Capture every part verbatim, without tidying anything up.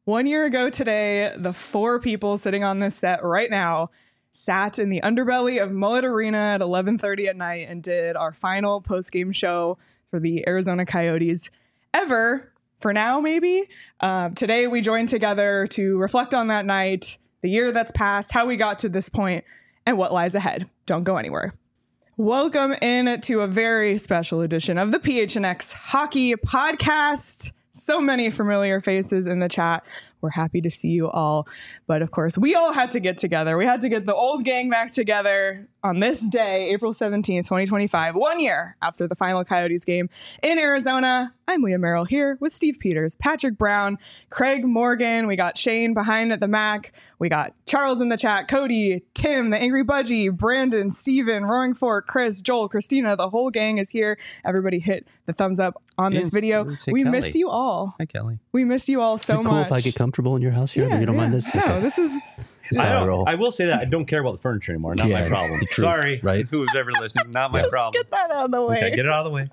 One year ago today, the four people sitting on this set right now sat in the underbelly of Mullet Arena at eleven thirty at night and did our final post-game show for the Arizona Coyotes ever, for now maybe. Uh, today we joined together to reflect on that night, the year that's passed, how we got to this point, and what lies ahead. Don't go anywhere. Welcome in to a very special edition of the P H N X Hockey Podcast. So many familiar faces in the chat. We're happy to see you all. But of course, we all had to get together. We had to get the old gang back together on this day, April seventeenth, twenty twenty-five, one year after the final Coyotes game in Arizona. I'm Leah Merrill here with Steve Peters, Patrick Brown, Craig Morgan. We got Shane behind at the Mac. We got Charles in the chat, Cody, Tim, the Angry Budgie, Brandon, Steven, Roaring Fork, Chris, Joel, Christina. The whole gang is here. Everybody hit the thumbs up on this Yes, video. We Kelly. missed you all. Hi, Kelly. We missed you all so Is it cool much. if I get comfortable in your house here? Yeah, you don't yeah. mind this? No, Okay. this is... I, How I don't, roll. I will say that I don't care about the furniture anymore. Not Yeah, my it's problem. the truth, Sorry, right? who's ever listening. Not my Just problem. get that out of the way. Okay, get it out of the way.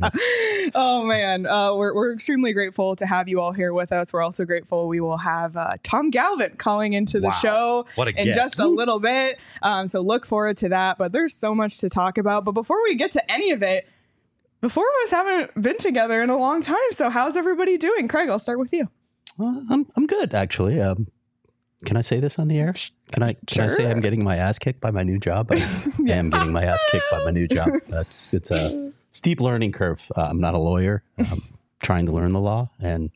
Oh man, uh, we're we're extremely grateful to have you all here with us. We're also grateful we will have uh, Tom Galvin calling into the Wow. show What a in get. just a little bit. Um, so look forward to that. But there's so much to talk about. But before we get to any of it, the four of us haven't been together in a long time. So how's everybody doing? Craig, I'll start with you. Well, I'm I'm good actually. Um, can I say this on the air? Can I can I say Sure. I'm getting my ass kicked by my new job? I, I am getting my ass kicked by my new job. That's it's a steep learning curve. Uh, I'm not a lawyer. I'm trying to learn the law, and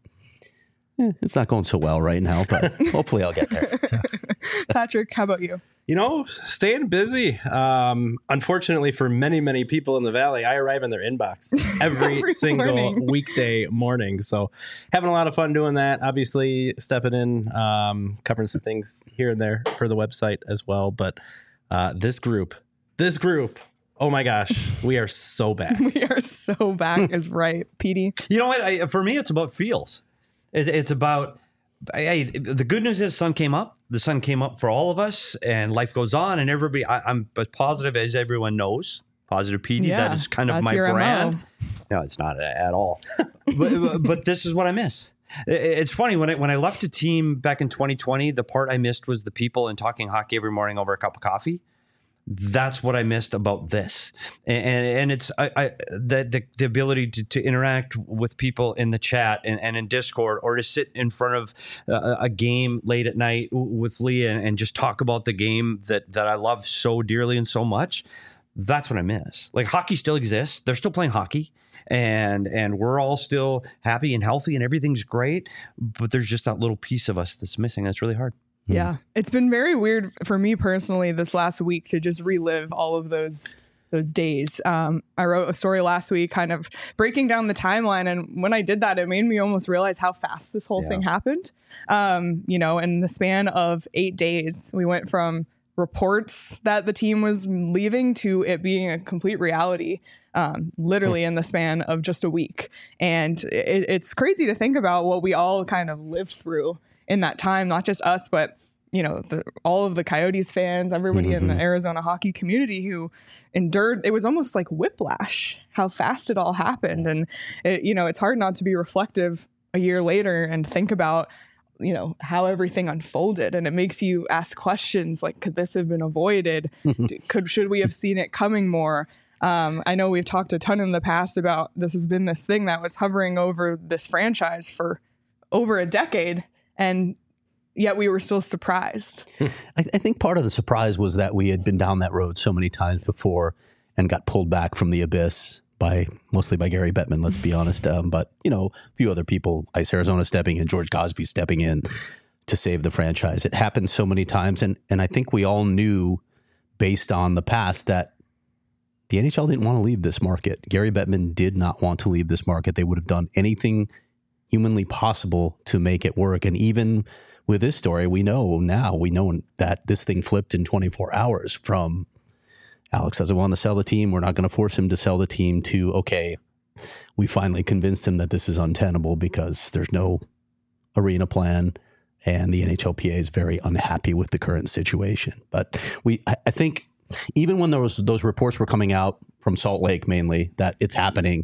eh, it's not going so well right now. But hopefully, I'll get there. So. Patrick, how about you? You know, staying busy. Um, unfortunately, for many, many people in the Valley, I arrive in their inbox every, Every single morning. weekday morning. So having a lot of fun doing that. Obviously, stepping in, um, covering some things here and there for the website as well. But uh, this group, this group, oh my gosh, we are so back. We are so back is right. Petey. You know what? I, for me, it's about feels. It, it's about, hey, the good news is sun came up. The sun came up for all of us, and life goes on. And everybody, I, I'm as positive as everyone knows. Positive P D, Yeah, that is kind of that's my your brand. M O. No, it's not at all. but, but this is what I miss. It- It's funny when I when I left a team back in twenty twenty. The part I missed was the people and talking hockey every morning over a cup of coffee. That's what I missed about this, and and, and it's I, I the, the the ability to, to interact with people in the chat and, and in Discord, or to sit in front of a, a game late at night with Leah and, and just talk about the game that that I love so dearly and so much. That's what I miss. Like, hockey still exists; they're still playing hockey, and and we're all still happy and healthy, and everything's great. But there's just that little piece of us that's missing. That's really hard. Yeah, it's been very weird for me personally this last week to just relive all of those those days. Um, I wrote a story last week kind of breaking down the timeline. And when I did that, it made me almost realize how fast this whole Yeah. thing happened. Um, you know, in the span of eight days, we went from reports that the team was leaving to it being a complete reality. Um, literally in the span of just a week. And it, it's crazy to think about what we all kind of lived through in that time, not just us, but you know, the, all of the Coyotes fans, everybody Mm-hmm. in the Arizona hockey community who endured. It was almost like whiplash, how fast it all happened. And it, you know, it's hard not to be reflective a year later and think about, you know, how everything unfolded. And it makes you ask questions like, could this have been avoided? D- Could should we have seen it coming more? Um, I know we've talked a ton in the past about this has been this thing that was hovering over this franchise for over a decade. And yet we were still surprised. I, I think part of the surprise was that we had been down that road so many times before and got pulled back from the abyss by mostly by Gary Bettman, let's be honest. Um, but, you know, a few other people, Ice Arizona stepping in, George Cosby stepping in to save the franchise. It happened so many times. And, and I think we all knew based on the past that the N H L didn't want to leave this market. Gary Bettman did not want to leave this market. They would have done anything humanly possible to make it work. And even with this story, we know now, we know that this thing flipped in twenty-four hours from Alex doesn't want to sell the team. We're not going to force him to sell the team to, okay, we finally convinced him that this is untenable because there's no arena plan and the N H L P A is very unhappy with the current situation. But we, I, I think even when there was, those reports were coming out from Salt Lake mainly that it's happening,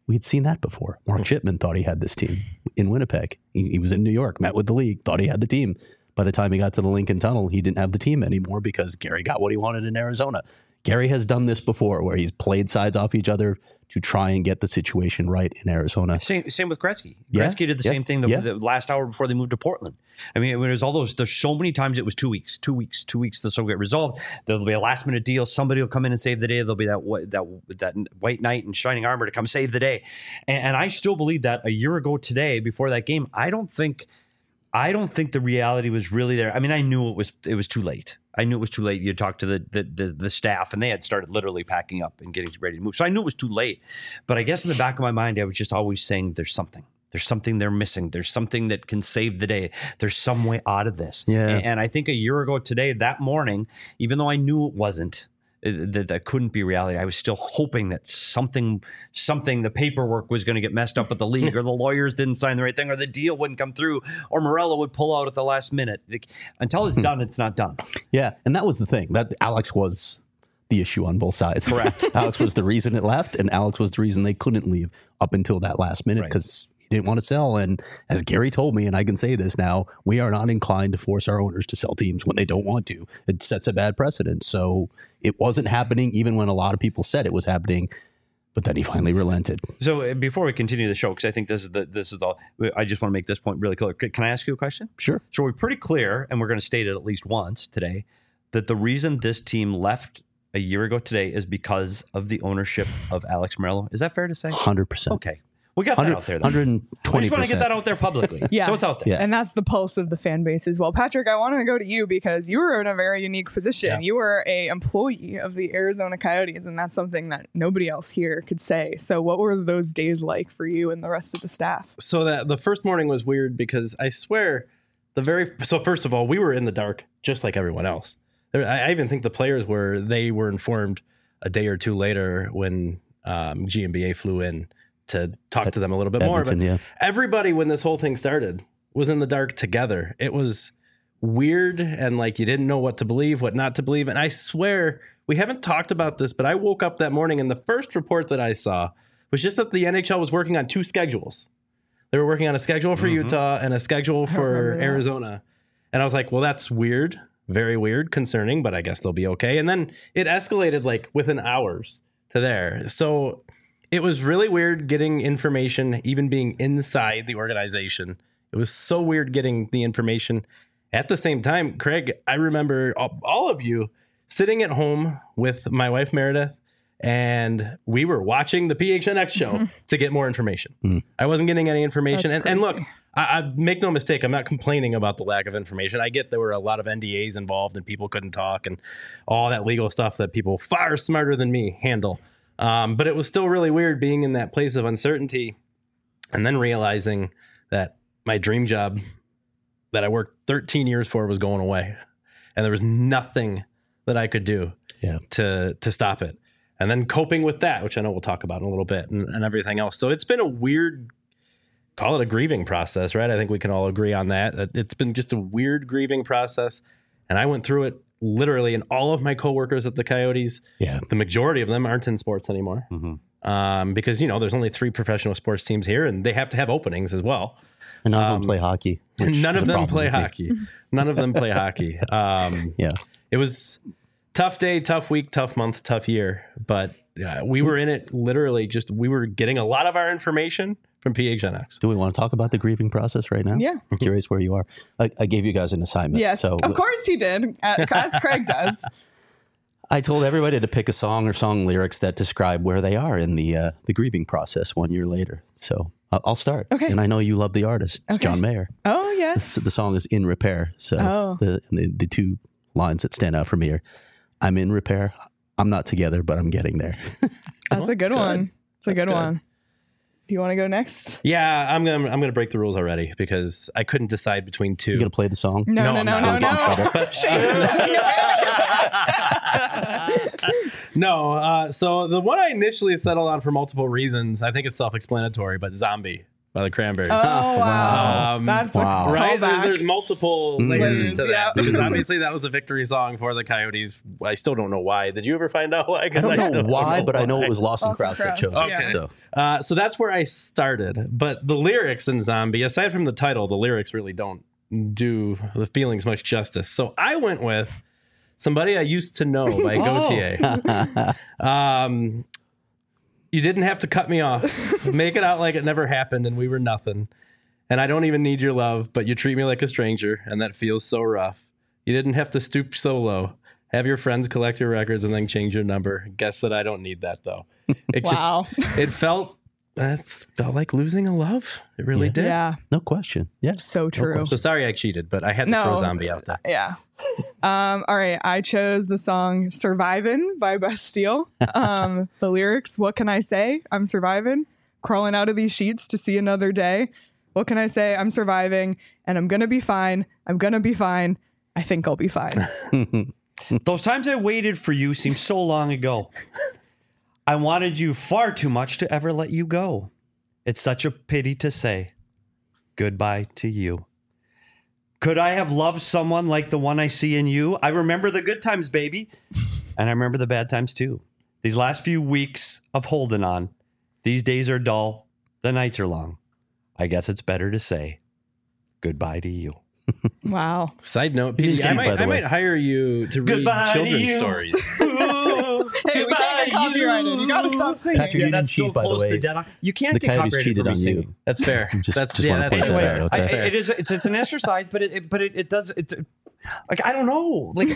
we'd seen that before. Mark Chipman thought he had this team in Winnipeg. He, he was in New York, met with the league, thought he had the team. By the time he got to the Lincoln Tunnel, he didn't have the team anymore because Gary got what he wanted in Arizona. Gary has done this before where he's played sides off each other to try and get the situation right in Arizona. Same, same with Gretzky. Yeah, Gretzky did the yeah, same thing the, yeah. the last hour before they moved to Portland. I mean, there's all those, there's so many times it was two weeks, two weeks, two weeks, this will get resolved. There'll be a last minute deal. Somebody will come in and save the day. There'll be that wh- that that white knight in shining armor to come save the day. And, and I still believe that a year ago today, before that game, I don't think, I don't think the reality was really there. I mean, I knew it was, it was too late. I knew it was too late. You talked to the, the the the staff, and they had started literally packing up and getting ready to move. So I knew it was too late. But I guess in the back of my mind, I was just always saying, "There's something. There's something they're missing. There's something that can save the day. There's some way out of this." Yeah. And, and I think a year ago today, that morning, even though I knew it wasn't, that that couldn't be reality, I was still hoping that something, something, the paperwork was going to get messed up with the league, or the lawyers didn't sign the right thing, or the deal wouldn't come through, or Morello would pull out at the last minute. Like, until it's done, it's not done. Yeah, and that was the thing. That Alex was the issue on both sides. Correct. Alex was the reason it left, and Alex was the reason they couldn't leave up until that last minute Right. because he didn't want to sell. And as Gary told me, and I can say this now, we are not inclined to force our owners to sell teams when they don't want to. It sets a bad precedent. So it wasn't happening, even when a lot of people said it was happening. But then he finally relented. So uh, before we continue the show, because I think this is the this is all, I just want to make this point really clear. C- Can I ask you a question? Sure. So we're pretty clear, and we're going to state it at least once today, that the reason this team left a year ago today is because of the ownership of Alex Morello. Is that fair to say? one hundred percent. Okay. We got that out there. Then. one hundred twenty percent. I just want to get that out there publicly. Yeah. So it's out there. Yeah. And that's the pulse of the fan base as well. Patrick, I want to go to you because you were in a very unique position. Yeah. You were a employee of the Arizona Coyotes, and that's something that nobody else here could say. So what were those days like for you and the rest of the staff? So that the first morning was weird because I swear the very so first of all, we were in the dark just like everyone else. There, I, I even think the players were they were informed a day or two later when um, G M B A flew in to talk to them a little bit Edmonton, more. But yeah. everybody, when this whole thing started, was in the dark together. It was weird and like you didn't know what to believe, what not to believe. And I swear we haven't talked about this, but I woke up that morning and the first report that I saw was just that the N H L was working on two schedules. They were working on a schedule for Mm-hmm. Utah and a schedule for remember that. Arizona. And I was like, well, that's weird, very weird, concerning, but I guess they'll be okay. And then it escalated like within hours to there. So it was really weird getting information, even being inside the organization. It was so weird getting the information. At the same time, Craig, I remember all, all of you sitting at home with my wife, Meredith, and we were watching the P H N X show to get more information. Mm. I wasn't getting any information. That's And, and look, crazy. I, I make no mistake, I'm not complaining about the lack of information. I get there were a lot of N D As involved and people couldn't talk and all that legal stuff that people far smarter than me handle. Um, but it was still really weird being in that place of uncertainty and then realizing that my dream job that I worked thirteen years for was going away and there was nothing that I could do Yeah. to to stop it. And then coping with that, which I know we'll talk about in a little bit, and, and everything else. So it's been a weird, call it a grieving process, right? I think we can all agree on that. It's been just a weird grieving process. And I went through it literally, and all of my coworkers at the Coyotes, Yeah. the majority of them aren't in sports anymore. Mm-hmm. Um, because, you know, there's only three professional sports teams here, and they have to have openings as well. And none of Um, them play hockey. which None is of a them problem play with me. hockey. None of them play hockey. Um, Yeah. it was tough day, tough week, tough month, tough year. But uh, we were in it literally just, we were getting a lot of our information from P H N X. Do we want to talk about the grieving process right now? Yeah. I'm curious where you are. I, I gave you guys an assignment. Yes, So of course he did, uh, as Craig does. I told everybody to pick a song or song lyrics that describe where they are in the uh, the grieving process one year later. So I'll, I'll start. Okay. And I know you love the artist. It's Okay. John Mayer. Oh, yes. So the song is In Repair. So Oh. the, the the two lines that stand out for me are, I'm in repair. I'm not together, but I'm getting there. That's a good good. one. It's a That's good, good. one. Do you want to go next? Yeah, I'm gonna I'm gonna break the rules already because I couldn't decide between two. You going to play the song? No, No, no, no, I'm no, not. no. But- Shane is having a no, uh, so the one I initially settled on for multiple reasons, I think it's self-explanatory, but "Zombie" by the Cranberries. Oh, wow. That's Wow. a Right? There's, callback. there's multiple layers Layers, to that yeah. because obviously that was the victory song for the Coyotes. I still don't know why. Did you ever find out why? 'Cause I don't know why, but I know why. it was Lawson Lawson Krause that Krause, chose it. yeah. So Uh, so that's where I started. But the lyrics in Zombie, aside from the title, the lyrics really don't do the feelings much justice. So I went with Somebody I Used to Know by Gautier. um, you didn't have to cut me off. Make it out like it never happened and we were nothing. And I don't even need your love, but you treat me like a stranger, and that feels so rough. You didn't have to stoop so low. Have your friends collect your records and then change your number. Guess that I don't need that though. It Wow. just it felt it felt like losing a love. It really Yeah. did. Yeah, no question. Yeah. so true. So sorry I cheated, but I had to No. throw Zombie out there. Yeah. Um, all right. I chose the song Survivin' by Bastille. Um, the lyrics, what can I say? I'm surviving. Crawling out of these sheets to see another day. What can I say? I'm surviving and I'm going to be fine. I'm going to be fine. I think I'll be fine. Those times I waited for you seem so long ago. I wanted you far too much to ever let you go. It's such a pity to say goodbye to you. Could I have loved someone like the one I see in you? I remember the good times, baby. And I remember the bad times too. These last few weeks of holding on. These days are dull. The nights are long. I guess it's better to say goodbye to you. Wow. Side note, He's P D, I gay, by might the I way. might hire you to read Goodbye to children's you. stories. Ooh, Hey, we can't get copyrighted. You got to stop singing. Patrick, you didn't cheat, by the way. dead. You can't The get Coyotes copyrighted cheated for me on you. singing. That's fair. Just- that's just yeah, wanna that's point that fair. out, Anyway, okay. I, it is it's it's an exercise, but it, it but it, it does it. Like I don't know. Like,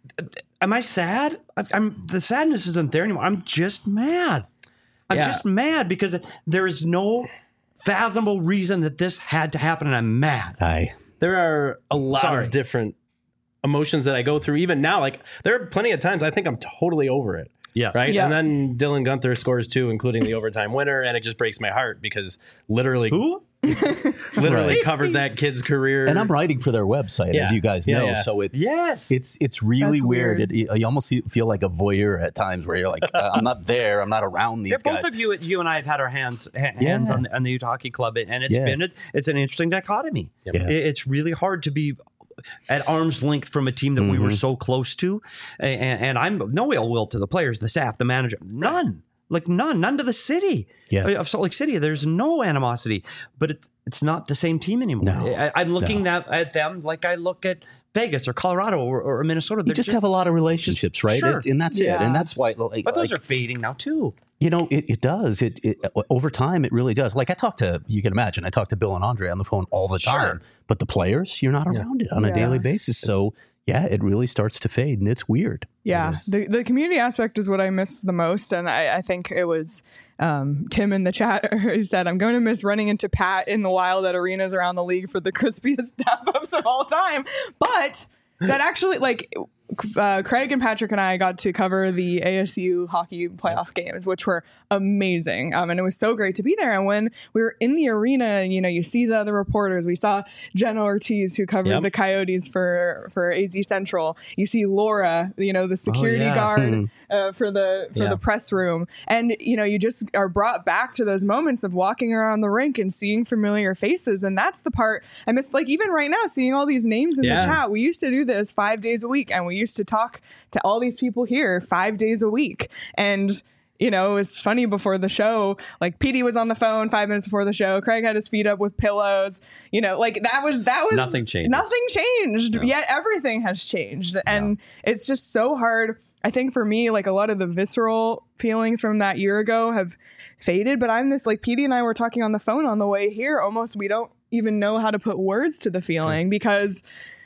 am I sad? I, I'm the sadness isn't there anymore. I'm just mad. I'm Yeah. just mad because there is no fathomable reason that this had to happen, and I'm mad. I There are a lot Sorry. of different emotions that I go through even now. Like there are plenty of times I think I'm totally over it. Yes. Right. Yeah. And then Dylan Gunther scores two, including the overtime winner. And it just breaks my heart because literally, Who? literally Right. covered that kid's career. and I'm writing for their website, Yeah. as you guys Yeah, know. yeah. So it's Yes. it's it's really That's weird. weird. It, you almost feel like a voyeur at times, where you're like, uh, I'm not there, I'm not around Yeah, these both guys. of you, you and I have had our hands ha- hands Yeah. on, the, on the Utah Hockey Club, and it's Yeah. been a, it's an interesting dichotomy. Yeah. It- it's really hard to be at arm's length from a team that we were so close to, and, and I'm no ill will to the players, the staff, the manager, none. Like none, none to the city Yeah. of Salt Lake City. There's no animosity, but it, it's not the same team anymore. No. I, I'm looking at, at them like I look at Vegas or Colorado or, or Minnesota. You They're just, have a lot of relationships, right? Sure. It's, and that's it. Yeah. And that's why, like, but those like, are fading now too. you know, it, it does. It, it over time, it really does. Like I talk to, you can imagine, I talk to Bill and Andre on the phone all the Sure. time. But the players, you're not around it on a Yeah. daily basis. So yeah, it really starts to fade, and it's weird. Yeah, It is. the the community aspect is what I miss the most, and I, I think it was um, Tim in the chat who said, "I'm going to miss running into Pat in the wild at arenas around the league for the crispiest tap ups of all time." But that actually, like, uh, Craig and Patrick and I got to cover the A S U hockey playoff games, which were amazing, um, and it was so great to be there. And when we were in the arena, you know, you see the other reporters. We saw Jenna Ortiz, who covered Yep. the Coyotes for for A Z Central. You see Laura, you know, the security yeah. guard uh, for the for Yeah. the press room, and you know, you just are brought back to those moments of walking around the rink and seeing familiar faces, and that's the part I miss. Like even right now, seeing all these names in Yeah. the chat. We used to do this five days a week, and we used to talk to all these people here five days a week, and. You know, it was funny before the show. Like P D was on the phone five minutes before the show. Craig had his feet up with pillows. You know, like that was that was Nothing changed. Nothing changed. Yet everything has changed, and it's just so hard. I think for me, like a lot of the visceral feelings from that year ago have faded. But I'm this like P D and I were talking on the phone on the way here. Almost we don't even know how to put words to the feeling because.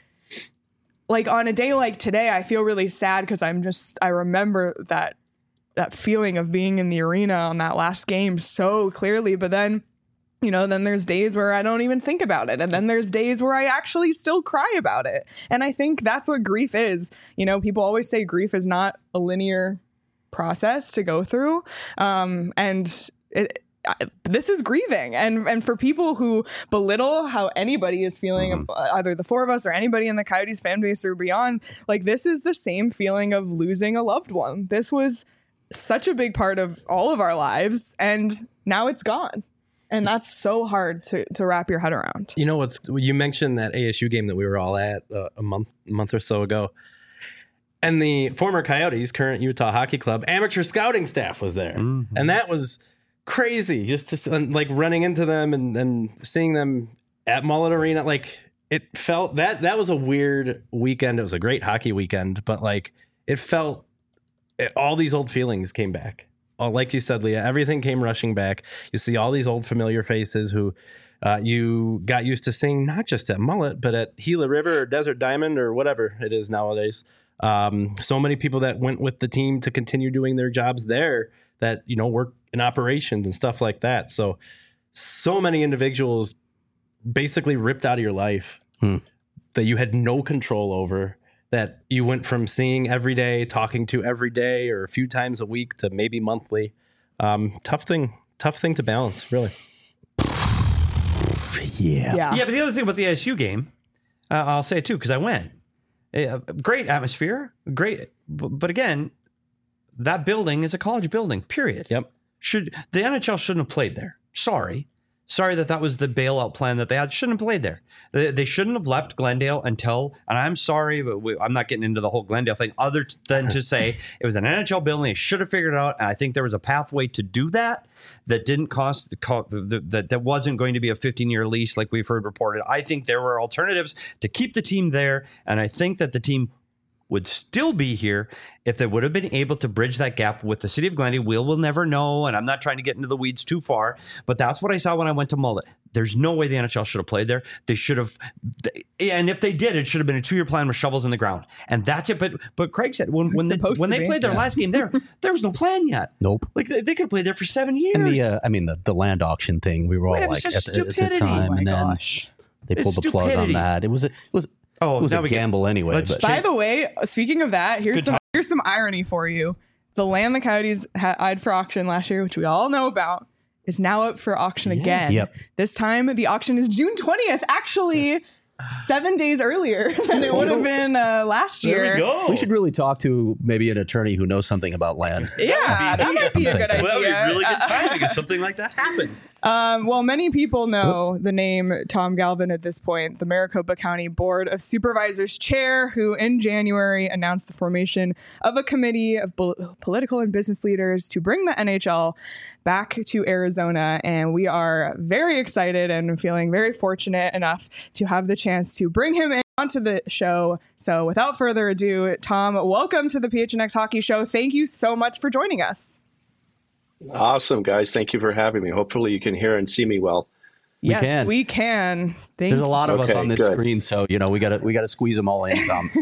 Like on a day like today, I feel really sad because I'm just I remember that that feeling of being in the arena on that last game so clearly. But then, you know, then there's days where I don't even think about it. And then there's days where I actually still cry about it. And I think that's what grief is. You know, people always say grief is not a linear process to go through. Um, and it, I, this is grieving, and and for people who belittle how anybody is feeling, Mm-hmm. uh, either the four of us or anybody in the Coyotes fan base or beyond, like this is the same feeling of losing a loved one. This was such a big part of all of our lives, and now it's gone. And that's so hard to, to wrap your head around. You know what's you mentioned that A S U game that we were all at uh, a month month or so ago, and the former Coyotes, current Utah Hockey Club amateur scouting staff was there, Mm-hmm. and that was crazy. Just to like running into them and, and seeing them at Mullet Arena, like it felt that that was a weird weekend. It was a great hockey weekend, but like it felt it, all these old feelings came back. Oh, like you said, Leah, everything came rushing back. You see all these old familiar faces who uh, you got used to seeing, not just at Mullet, but at Gila River or Desert Diamond or whatever it is nowadays. Um, so many people that went with the team to continue doing their jobs there that, you know, work in operations and stuff like that. So, so many individuals basically ripped out of your life Hmm. that you had no control over, that you went from seeing every day, talking to every day or a few times a week to maybe monthly. Um, tough thing, tough thing to balance, really. Yeah. Yeah. Yeah, but the other thing about the A S U game, uh, I'll say it too, because I went. Uh, great atmosphere, great. But, but again, that building is a college building, period. Yep. Should the N H L shouldn't have played there. Sorry. Sorry that that was the bailout plan that they had. Shouldn't have played there. They, they shouldn't have left Glendale until, and I'm sorry, but we, I'm not getting into the whole Glendale thing other than to say it was an N H L building. They should have figured it out. And I think there was a pathway to do that that didn't cost, that, that wasn't going to be a fifteen year lease like we've heard reported. I think there were alternatives to keep the team there. And I think that the team would still be here if they would have been able to bridge that gap with the city of Glendale. We'll, we'll never know, and I'm not trying to get into the weeds too far, but that's what I saw when I went to Mullet. There's no way the N H L should have played there. They should have, and if they did, it should have been a two-year plan with shovels in the ground, and that's it. But but Craig said when when, the, when they be. played their Yeah. last game there, there was no plan yet. Nope. Like they, they could have played there for seven years. And the, uh, I mean, the, the land auction thing, we were all Yeah, it like was at just the, at the stupidity. time, Oh my and then gosh. they pulled It's the plug on stupidity. that. It was a, it was Oh, it was now a we get- gamble anyway. let's But check- By the way, speaking of that, here's Good some time. here's some irony for you. The land the Coyotes ha- eyed for auction last year, which we all know about, is now up for auction again. Yep. This time, the auction is June twentieth, actually seven days earlier than it would have been uh, last year. There we go. we should really talk to maybe an attorney who knows something about land. Yeah, that might be a good idea. Well, that would be really good Uh, timing if something like that happened. Um, well, many people know the name Tom Galvin at this point, the Maricopa County Board of Supervisors chair, who in January announced the formation of a committee of bo- political and business leaders to bring the N H L back to Arizona. And we are very excited and feeling very fortunate enough to have the chance to bring him in onto the show. So without further ado, Tom, welcome to the P H N X Hockey Show. Thank you so much for joining us. Awesome, guys. Thank you for having me. Hopefully you can hear and see me well. Yes, can. we can. Thank There's a lot of us Okay, on this good. screen, so you know we got to we got to squeeze them all in, Tom.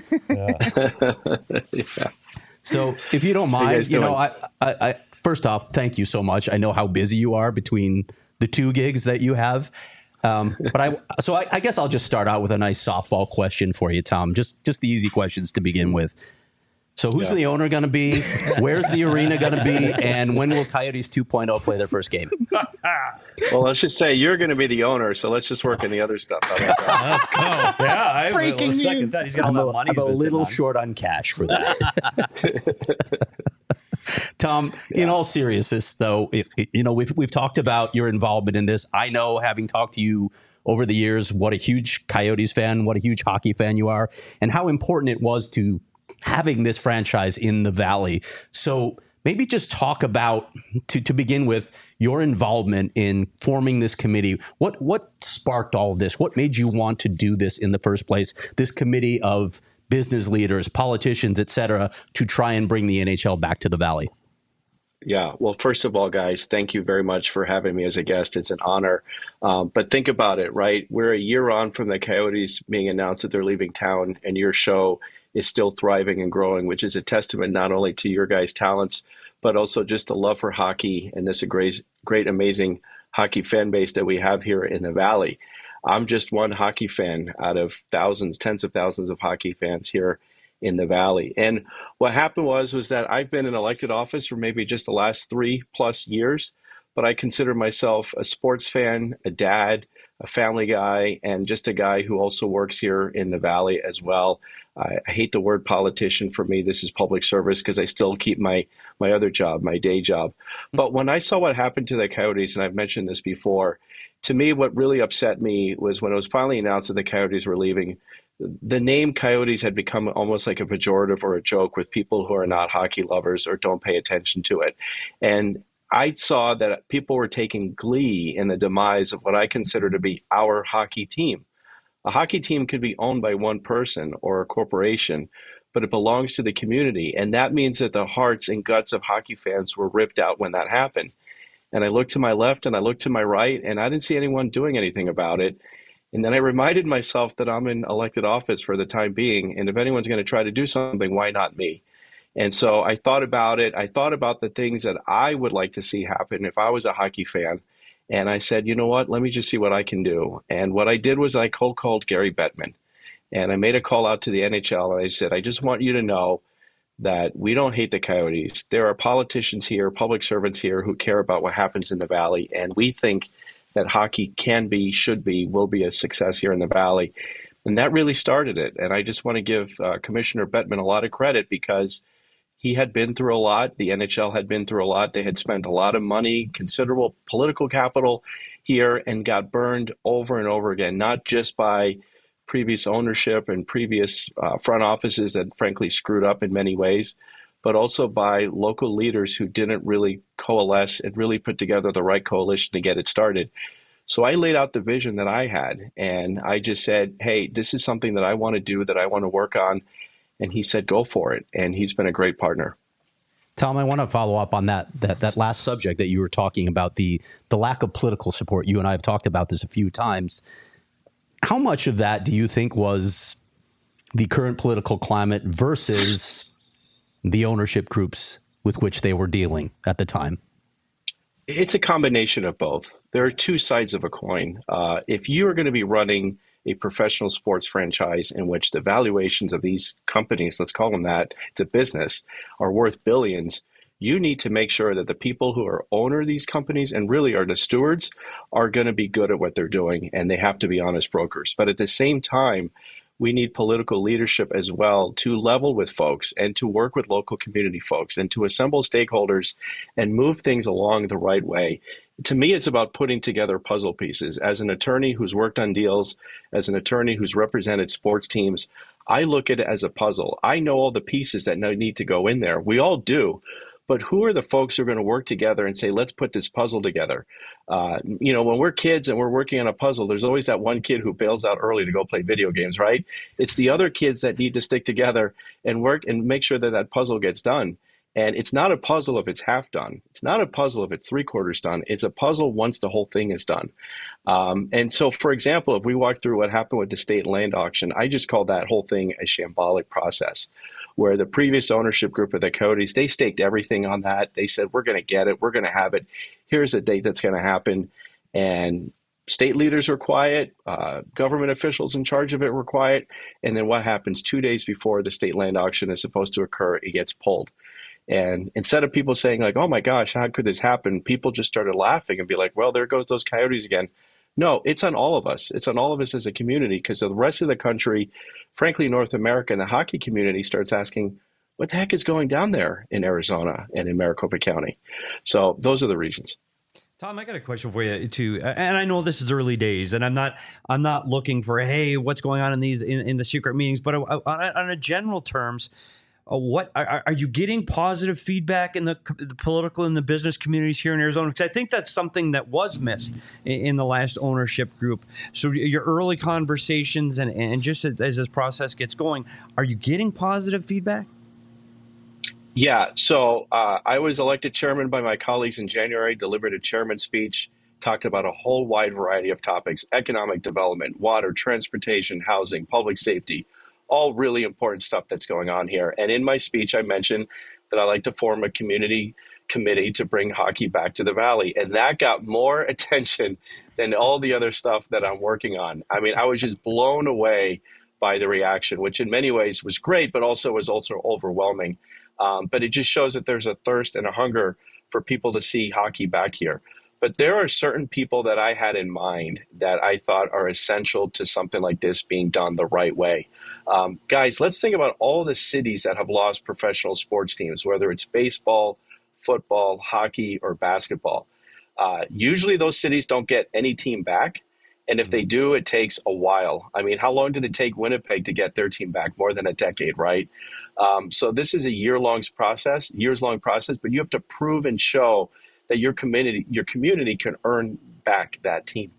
Yeah. So if you don't you mind, guys you, know, doing? I, I, I first off, thank you so much. I know how busy you are between the two gigs that you have. Um, but I, so I, I guess I'll just start out with a nice softball question for you, Tom. Just, just the easy questions to begin with. So who's Yeah. the owner going to be? Where's the arena going to be? And when will Coyotes two point oh play their first game? Well, let's just say you're going to be the owner, so let's just work on the other stuff. How about that? Yeah, I Breaking will second news. that. He's got I'm all a, that money. I'm a he's been sitting little on. short on cash for that. Tom, in all seriousness, though, it, it- you know we've we've talked about your involvement in this. I know, having talked to you over the years, what a huge Coyotes fan, what a huge hockey fan you are, and how important it was to having this franchise in the Valley. So maybe just talk about, to to begin with, your involvement in forming this committee. What what sparked all of this? What made you want to do this in the first place? This committee of business leaders, politicians, et cetera, to try and bring the N H L back to the Valley. Yeah. Well, first of all, guys, thank you very much for having me as a guest. It's an honor. Um, but think about it, right? We're a year on from the Coyotes being announced that they're leaving town, and your show is still thriving and growing, which is a testament not only to your guys' talents, but also just a love for hockey and this great, great, amazing hockey fan base that we have here in the Valley. I'm just one hockey fan out of thousands, tens of thousands of hockey fans here in the Valley. And what happened was, was that I've been in elected office for maybe just the last three plus years, but I consider myself a sports fan, a dad, a family guy, and just a guy who also works here in the Valley as well. I, I hate the word politician. For me, this is public service because I still keep my my other job, my day job. But when I saw what happened to the Coyotes, and I've mentioned this before, to me, what really upset me was when it was finally announced that the Coyotes were leaving, the name Coyotes had become almost like a pejorative or a joke with people who are not hockey lovers or don't pay attention to it. And I saw that people were taking glee in the demise of what I consider to be our hockey team. A hockey team could be owned by one person or a corporation, but it belongs to the community. And that means that the hearts and guts of hockey fans were ripped out when that happened. And I looked to my left and I looked to my right, and I didn't see anyone doing anything about it. And then I reminded myself that I'm in elected office for the time being. And if anyone's going to try to do something, why not me? And so I thought about it. I thought about the things that I would like to see happen if I was a hockey fan. And I said, you know what, let me just see what I can do. And what I did was I cold called Gary Bettman. And I made a call out to the N H L. And I said, I just want you to know that we don't hate the Coyotes. There are politicians here, public servants here who care about what happens in the Valley. And we think that hockey can be, should be, will be a success here in the Valley. And that really started it. And I just want to give uh, Commissioner Bettman a lot of credit because he had been through a lot. The N H L had been through a lot. They had spent a lot of money, considerable political capital here, and got burned over and over again, not just by previous ownership and previous uh, front offices that frankly screwed up in many ways, but also by local leaders who didn't really coalesce and really put together the right coalition to get it started. So I laid out the vision that I had, and I just said, hey, this is something that I want to do, that I want to work on. And he said, go for it. And he's been a great partner. Tom, I want to follow up on that that that last subject that you were talking about, the the lack of political support. You and I have talked about this a few times. How much of that do you think was the current political climate versus the ownership groups with which they were dealing at the time? It's a combination of both. There are two sides of a coin. Uh, if you are going to be running a professional sports franchise in which the valuations of these companies, let's call them that, it's a business, are worth billions, you need to make sure that the people who are owner of these companies and really are the stewards are going to be good at what they're doing, and they have to be honest brokers. But at the same time, we need political leadership as well to level with folks and to work with local community folks and to assemble stakeholders and move things along the right way. To me, it's about putting together puzzle pieces. As an attorney who's worked on deals, as an attorney who's represented sports teams, I look at it as a puzzle. I know all the pieces that need to go in there. We all do. But who are the folks who are going to work together and say, let's put this puzzle together? Uh, you know, when we're kids and we're working on a puzzle, there's always that one kid who bails out early to go play video games, right? It's the other kids that need to stick together and work and make sure that that puzzle gets done. And it's not a puzzle if it's half done. It's not a puzzle if it's three quarters done. It's a puzzle once the whole thing is done. Um, and so, for example, if we walk through what happened with the state land auction, I just call that whole thing a shambolic process, where the previous ownership group of the Coyotes, they staked everything on that. They said, we're going to get it. We're going to have it. Here's the date that's going to happen. And state leaders were quiet. Uh, government officials in charge of it were quiet. And then what happens two days before the state land auction is supposed to occur? It gets pulled. And instead of people saying like, oh my gosh, how could this happen? People just started laughing and be like, well, there goes those Coyotes again. No, it's on all of us. It's on all of us as a community, because the rest of the country, frankly, North America and the hockey community starts asking, what the heck is going down there in Arizona and in Maricopa County? So those are the reasons. Tom, I got a question for you too, and I know this is early days, and I'm not, I'm not looking for, hey, what's going on in these in, in the secret meetings, but on, on a general terms, Uh, what are, are you getting positive feedback in the, the political and the business communities here in Arizona? Because I think that's something that was missed in, in the last ownership group. So your early conversations and, and just as, as this process gets going, are you getting positive feedback? Yeah. So uh, I was elected chairman by my colleagues in January, delivered a chairman's speech, talked about a whole wide variety of topics: economic development, water, transportation, housing, public safety, all really important stuff that's going on here. And in my speech, I mentioned that I like to form a community committee to bring hockey back to the Valley. And that got more attention than all the other stuff that I'm working on. I mean, I was just blown away by the reaction, which in many ways was great, but also was also overwhelming. Um, but it just shows that there's a thirst and a hunger for people to see hockey back here. But there are certain people that I had in mind that I thought are essential to something like this being done the right way. Um, guys, let's think about all the cities that have lost professional sports teams, whether it's baseball, football, hockey, or basketball. Uh, usually those cities don't get any team back. And if they do, it takes a while. I mean, how long did it take Winnipeg to get their team back? More than a decade, right? Um, so this is a year-long process, years-long process, but you have to prove and show that your community, your community can earn back that team.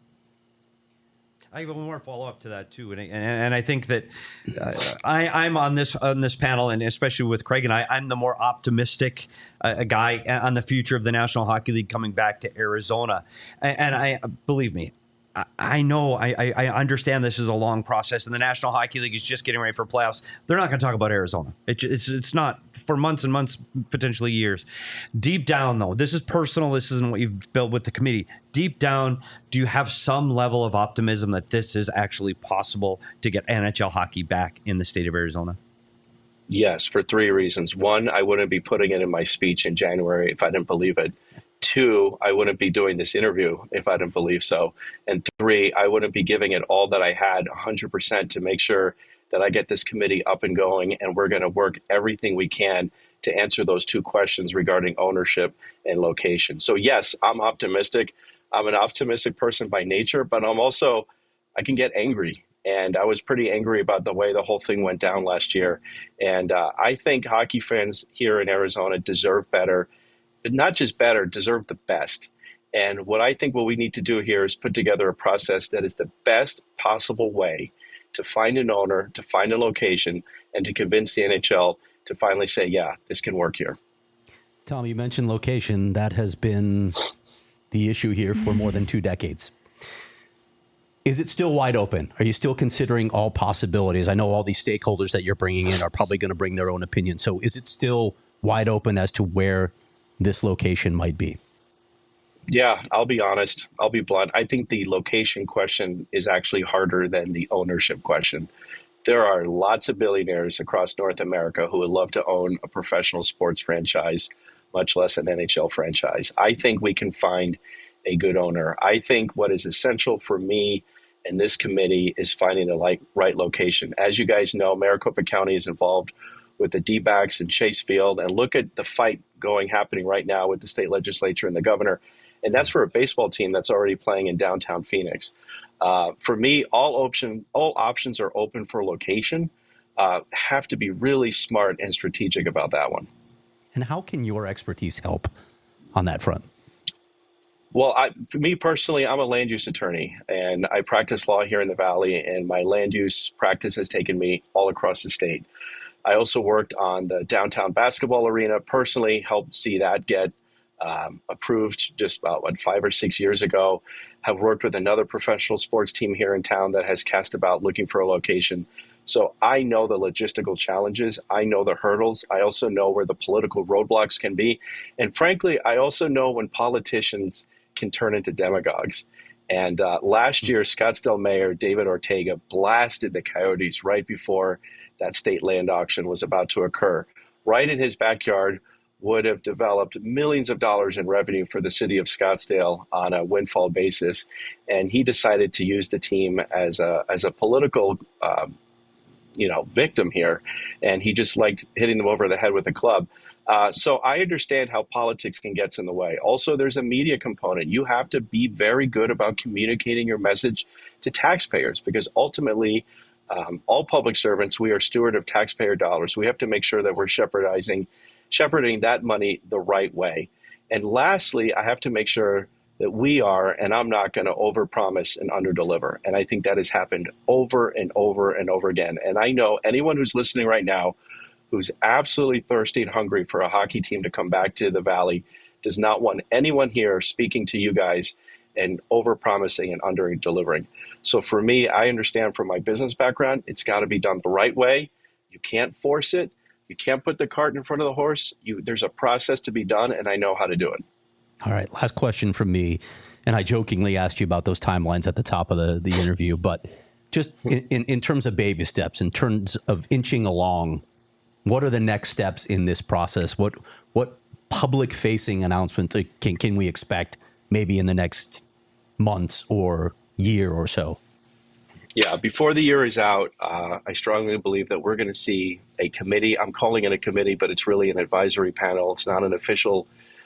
I have one more follow up to that too, and and, and I think that uh, I, I'm on this on this panel, and especially with Craig and I, I'm the more optimistic uh, guy on the future of the National Hockey League coming back to Arizona, and, and I believe me. I know, I, I understand this is a long process, and the National Hockey League is just getting ready for playoffs. They're not going to talk about Arizona. It, it's it's not for months and months, potentially years. Deep down, though, this is personal. This isn't what you've built with the committee. Deep down, do you have some level of optimism that this is actually possible to get N H L hockey back in the state of Arizona? Yes, for three reasons. One, I wouldn't be putting it in my speech in January if I didn't believe it. Two, I wouldn't be doing this interview if I didn't believe so. And three, I wouldn't be giving it all that I had, one hundred percent, to make sure that I get this committee up and going. And we're going to work everything we can to answer those two questions regarding ownership and location. So yes, I'm optimistic. I'm an optimistic person by nature, but I'm also, I can get angry. And I was pretty angry about the way the whole thing went down last year. And uh, I think hockey fans here in Arizona deserve better. But not just better, deserve the best. And what I think what we need to do here is put together a process that is the best possible way to find an owner, to find a location, and to convince the N H L to finally say, yeah, this can work here. Tom, you mentioned location. That has been the issue here for more than two decades. Is it still wide open? Are you still considering all possibilities? I know all these stakeholders that you're bringing in are probably going to bring their own opinion. So is it still wide open as to where this location might be? Yeah, I'll be honest. I'll be blunt. I think the location question is actually harder than the ownership question. There are lots of billionaires across North America who would love to own a professional sports franchise, much less an N H L franchise. I think we can find a good owner. I think what is essential for me and this committee is finding the like, right location. As you guys know, Maricopa County is involved with the D-backs and Chase Field, and look at the fight going happening right now with the state legislature and the governor. And that's for a baseball team that's already playing in downtown Phoenix. Uh, for me, all option, all options are open for location. Uh, have to be really smart and strategic about that one. And how can your expertise help on that front? Well, I, for me personally, I'm a land use attorney, and I practice law here in the Valley, and my land use practice has taken me all across the state. I also worked on the downtown basketball arena, personally helped see that get um, approved just about, what, five or six years ago. Have worked with another professional sports team here in town that has cast about looking for a location. So I know the logistical challenges. I know the hurdles. I also know where the political roadblocks can be. And frankly, I also know when politicians can turn into demagogues. And uh, last year, Scottsdale Mayor David Ortega blasted the Coyotes right before that state land auction was about to occur. Right in his backyard would have developed millions of dollars in revenue for the city of Scottsdale on a windfall basis. And he decided to use the team as a, as a political um, you know, victim here. And he just liked hitting them over the head with a club. Uh, so I understand how politics can get in the way. Also, there's a media component. You have to be very good about communicating your message to taxpayers, because ultimately, um, all public servants, we are steward of taxpayer dollars. We have to make sure that we're shepherdizing, shepherding that money the right way. And lastly, I have to make sure that we are, and I'm not going to overpromise and underdeliver. And I think that has happened over and over and over again. And I know anyone who's listening right now who's absolutely thirsty and hungry for a hockey team to come back to the Valley does not want anyone here speaking to you guys and overpromising and under-delivering. So for me, I understand from my business background, it's got to be done the right way. You can't force it. You can't put the cart in front of the horse. You, there's a process to be done, and I know how to do it. All right, last question from me. And I jokingly asked you about those timelines at the top of the, the interview, but just in, in, in terms of baby steps, in terms of inching along, what are the next steps in this process? What what public-facing announcements can can we expect maybe in the next months or year or so? Yeah, before the year is out, uh, I strongly believe that we're going to see a committee. I'm calling it a committee, but it's really an advisory panel. It's not an official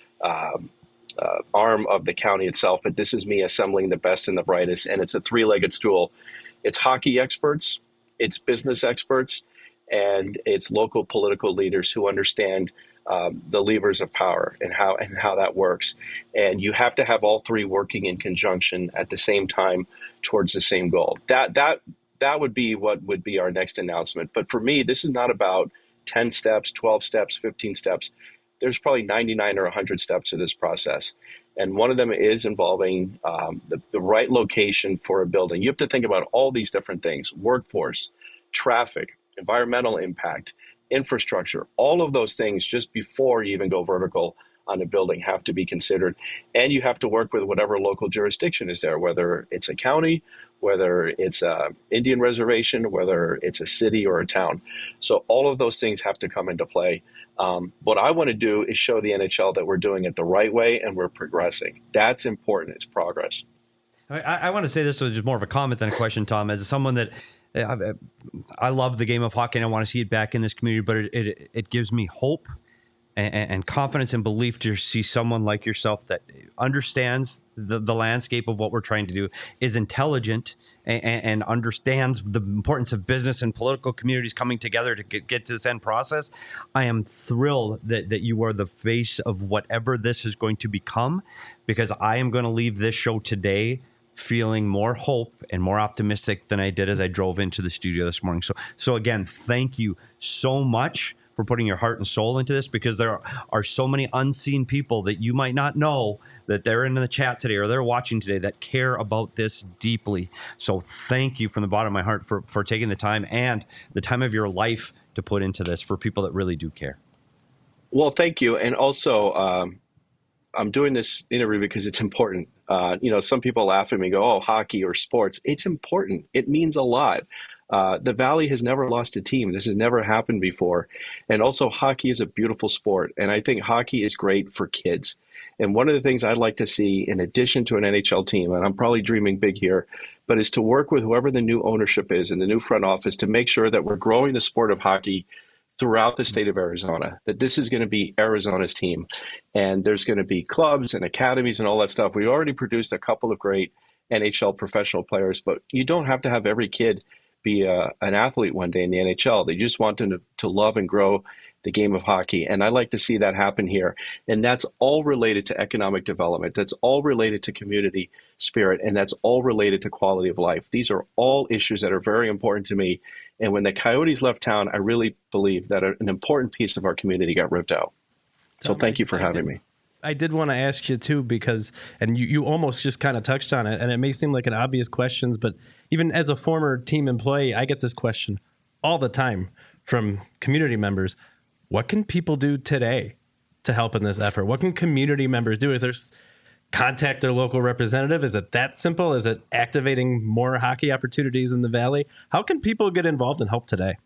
um, uh, arm of the county itself, but this is me assembling the best and the brightest, and it's a three-legged stool. It's hockey experts, it's business experts, and it's local political leaders who understand um, the levers of power and how and how that works. And you have to have all three working in conjunction at the same time towards the same goal. That that that would be what would be our next announcement. But for me, this is not about ten steps, twelve steps, fifteen steps. There's probably ninety-nine or one hundred steps to this process. And one of them is involving um, the, the right location for a building. You have to think about all these different things: workforce, traffic, environmental impact, infrastructure. All of those things just before you even go vertical on a building have to be considered. And you have to work with whatever local jurisdiction is there, whether it's a county, whether it's a Indian reservation, whether it's a city or a town. So all of those things have to come into play. Um, what I want to do is show the N H L that we're doing it the right way and we're progressing. That's important. It's progress. I, I want to say this was just more of a comment than a question, Tom. As someone that I, I love the game of hockey and I want to see it back in this community, but it, it, it gives me hope and, and confidence and belief to see someone like yourself that understands the, the landscape of what we're trying to do, is intelligent, and, and understands the importance of business and political communities coming together to get, get to this end process. I am thrilled that, that you are the face of whatever this is going to become, because I am going to leave this show today feeling more hope and more optimistic than I did as I drove into the studio this morning. So, so again, thank you so much for putting your heart and soul into this, because there are so many unseen people that you might not know that they're in the chat today or they're watching today that care about this deeply. So thank you from the bottom of my heart for, for taking the time and the time of your life to put into this for people that really do care. Well, thank you. And also, um, I'm doing this interview because it's important. Uh, you know, some people laugh at me and go, oh, hockey or sports. It's important. It means a lot. Uh, the Valley has never lost a team. This has never happened before. And also, hockey is a beautiful sport. And I think hockey is great for kids. And one of the things I'd like to see, in addition to an N H L team, and I'm probably dreaming big here, but is to work with whoever the new ownership is in the new front office to make sure that we're growing the sport of hockey throughout the state of Arizona, that this is going to be Arizona's team. And there's going to be clubs and academies and all that stuff. We already produced a couple of great N H L professional players, but you don't have to have every kid be a, an athlete one day in the N H L. They just want them to, to love and grow the game of hockey. And I like to see that happen here. And that's all related to economic development. That's all related to community spirit. And that's all related to quality of life. These are all issues that are very important to me. And when the Coyotes left town, I really believe that an important piece of our community got ripped out. So thank you for having me. I did want to ask you too, because, and you, you almost just kind of touched on it, and it may seem like an obvious question, but even as a former team employee, I get this question all the time from community members. What can people do today to help in this effort? What can community members do? Is there contact their local representative? Is it that simple? Is it activating more hockey opportunities in the Valley? How can people get involved and help today?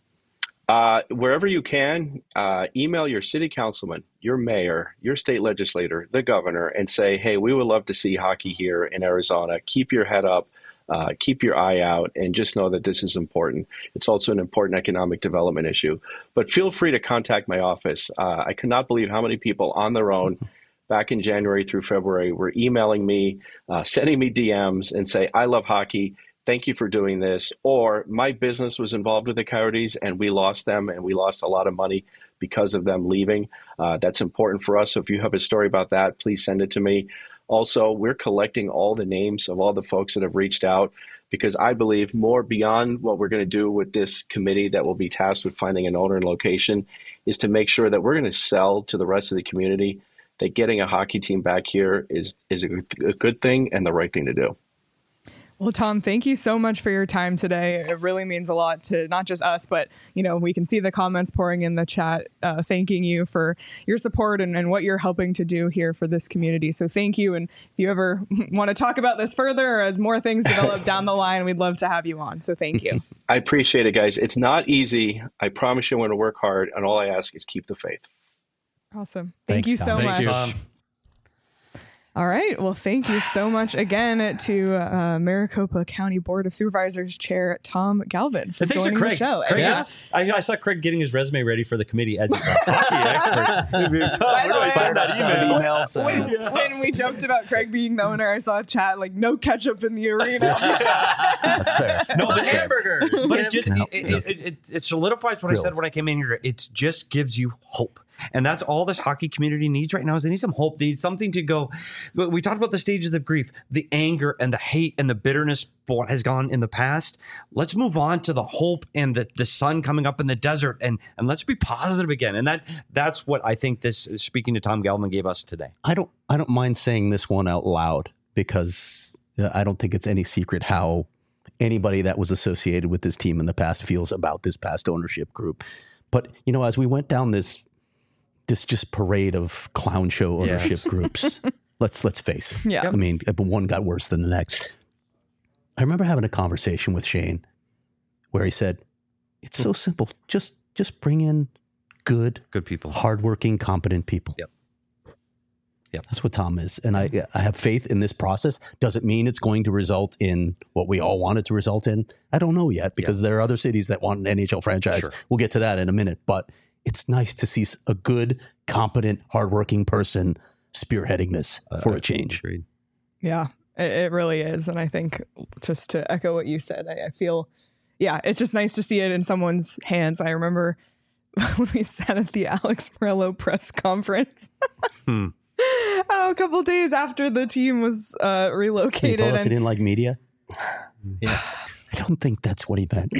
Uh, wherever you can, uh, email your city councilman, your mayor, your state legislator, the governor, and say, hey, we would love to see hockey here in Arizona. Keep your head up, uh, keep your eye out, and just know that this is important. It's also an important economic development issue. But feel free to contact my office. Uh, I cannot believe how many people on their own back in January through February were emailing me, uh, sending me D Ms and say, I love hockey. Thank you for doing this. Or my business was involved with the Coyotes and we lost them and we lost a lot of money because of them leaving. Uh, that's important for us. So if you have a story about that, please send it to me. Also, we're collecting all the names of all the folks that have reached out, because I believe more beyond what we're going to do with this committee that will be tasked with finding an owner and location is to make sure that we're going to sell to the rest of the community that getting a hockey team back here is, is a good thing and the right thing to do. Well, Tom, thank you so much for your time today. It really means a lot to not just us, but, you know, we can see the comments pouring in the chat, uh, thanking you for your support and, and what you're helping to do here for this community. So thank you. And if you ever want to talk about this further or as more things develop down the line, we'd love to have you on. So thank you. I appreciate it, guys. It's not easy. I promise you I'm going to work hard. And all I ask is keep the faith. Awesome. Thank Thanks, you Tom. so Thank much. you. Um, All right. Well, thank you so much again to uh, Maricopa County Board of Supervisors Chair Tom Galvin for And thanks to joining Craig. the show. Craig And, is- I, I saw Craig getting his resume ready for the committee as a hockey expert. By Where the do I way- send that Send email? emails. when, uh, when we joked about Craig being the owner, I saw a chat like no ketchup in the arena. That's fair. No, but, Hamburger. but it just No, it, no. it, it, it, it solidifies what I Grilled. said when I came in here. It just gives you hope. And that's all this hockey community needs right now is they need some hope. They need something to go. We talked about the stages of grief, the anger and the hate and the bitterness for what has gone in the past. Let's move on to the hope and the, the sun coming up in the desert and, and let's be positive again. And that that's what I think this, speaking to Tom Galvin, gave us today. I don't I don't mind saying this one out loud because uh, I don't think it's any secret how anybody that was associated with this team in the past feels about this past ownership group. But, you know, as we went down this this just parade of clown show ownership groups, let's let's face it. Yeah. I mean, one got worse than the next. I remember having a conversation with Shane where he said, it's so simple. Just just bring in good, Good people. hardworking, competent people. Yep. Yep. That's what Tom is. And I I have faith in this process. Doesn't mean it's going to result in what we all want it to result in. I don't know yet because there are other cities that want an N H L franchise. Sure. We'll get to that in a minute. But it's nice to see a good, competent, hardworking person spearheading this for a change. Agreed. Yeah, it, it really is. And I think just to echo what you said, I, I feel, yeah, it's just nice to see it in someone's hands. I remember when we sat at the Alex Morello press conference Hmm. oh, a couple days after the team was uh, Can you relocated. tell us he And, didn't like media? Yeah. I don't think that's what he meant.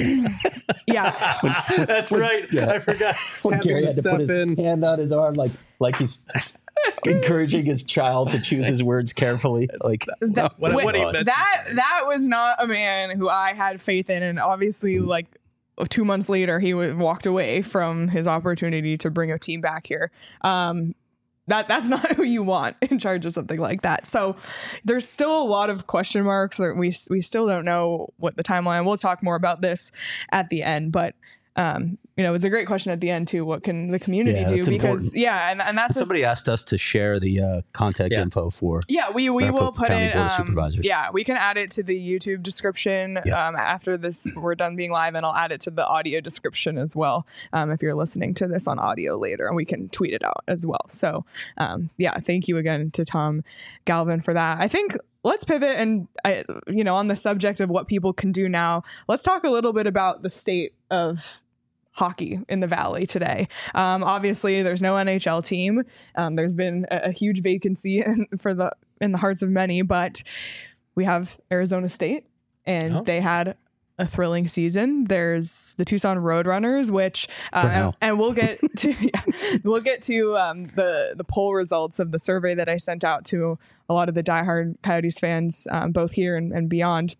yeah, That's right. yeah. I forgot. When Having Gary to had to step put his in. hand on his arm like like he's encouraging his child to choose his words carefully. Like That- What- wait, what he meant to that say. that was not a man who I had faith in, and obviously, like two months later, he w- walked away from his opportunity to bring a team back here. Um, that that's not who you want in charge of something like that. So there's still a lot of question marks. That we we still don't know what the timeline. We'll talk more about this at the end, but. Um, you know, it's a great question at the end too. What can the community Yeah, do? that's Because important. yeah, and, and that's a, somebody asked us to share the uh, contact Yeah. info for. yeah, we we will Maricopa put County it. Board of Um, Supervisors. yeah, we can add it to the YouTube description Yeah. um, after this. We're done being live, and I'll add it to the audio description as well. Um, if you're listening to this on audio later, and we can tweet it out as well. So, um, yeah, thank you again to Tom Galvin for that. I think. Let's pivot and, I, you know, on the subject of what people can do now, let's talk a little bit about the state of hockey in the Valley today. Um, obviously, there's no N H L team. Um, there's been a, a huge vacancy in, for the in the hearts of many, but we have Arizona State, and Oh. they had a thrilling season. There's the Tucson Roadrunners, which uh, For now. and we'll get to yeah, we'll get to um, the the poll results of the survey that I sent out to a lot of the diehard Coyotes fans, um, both here and, and beyond,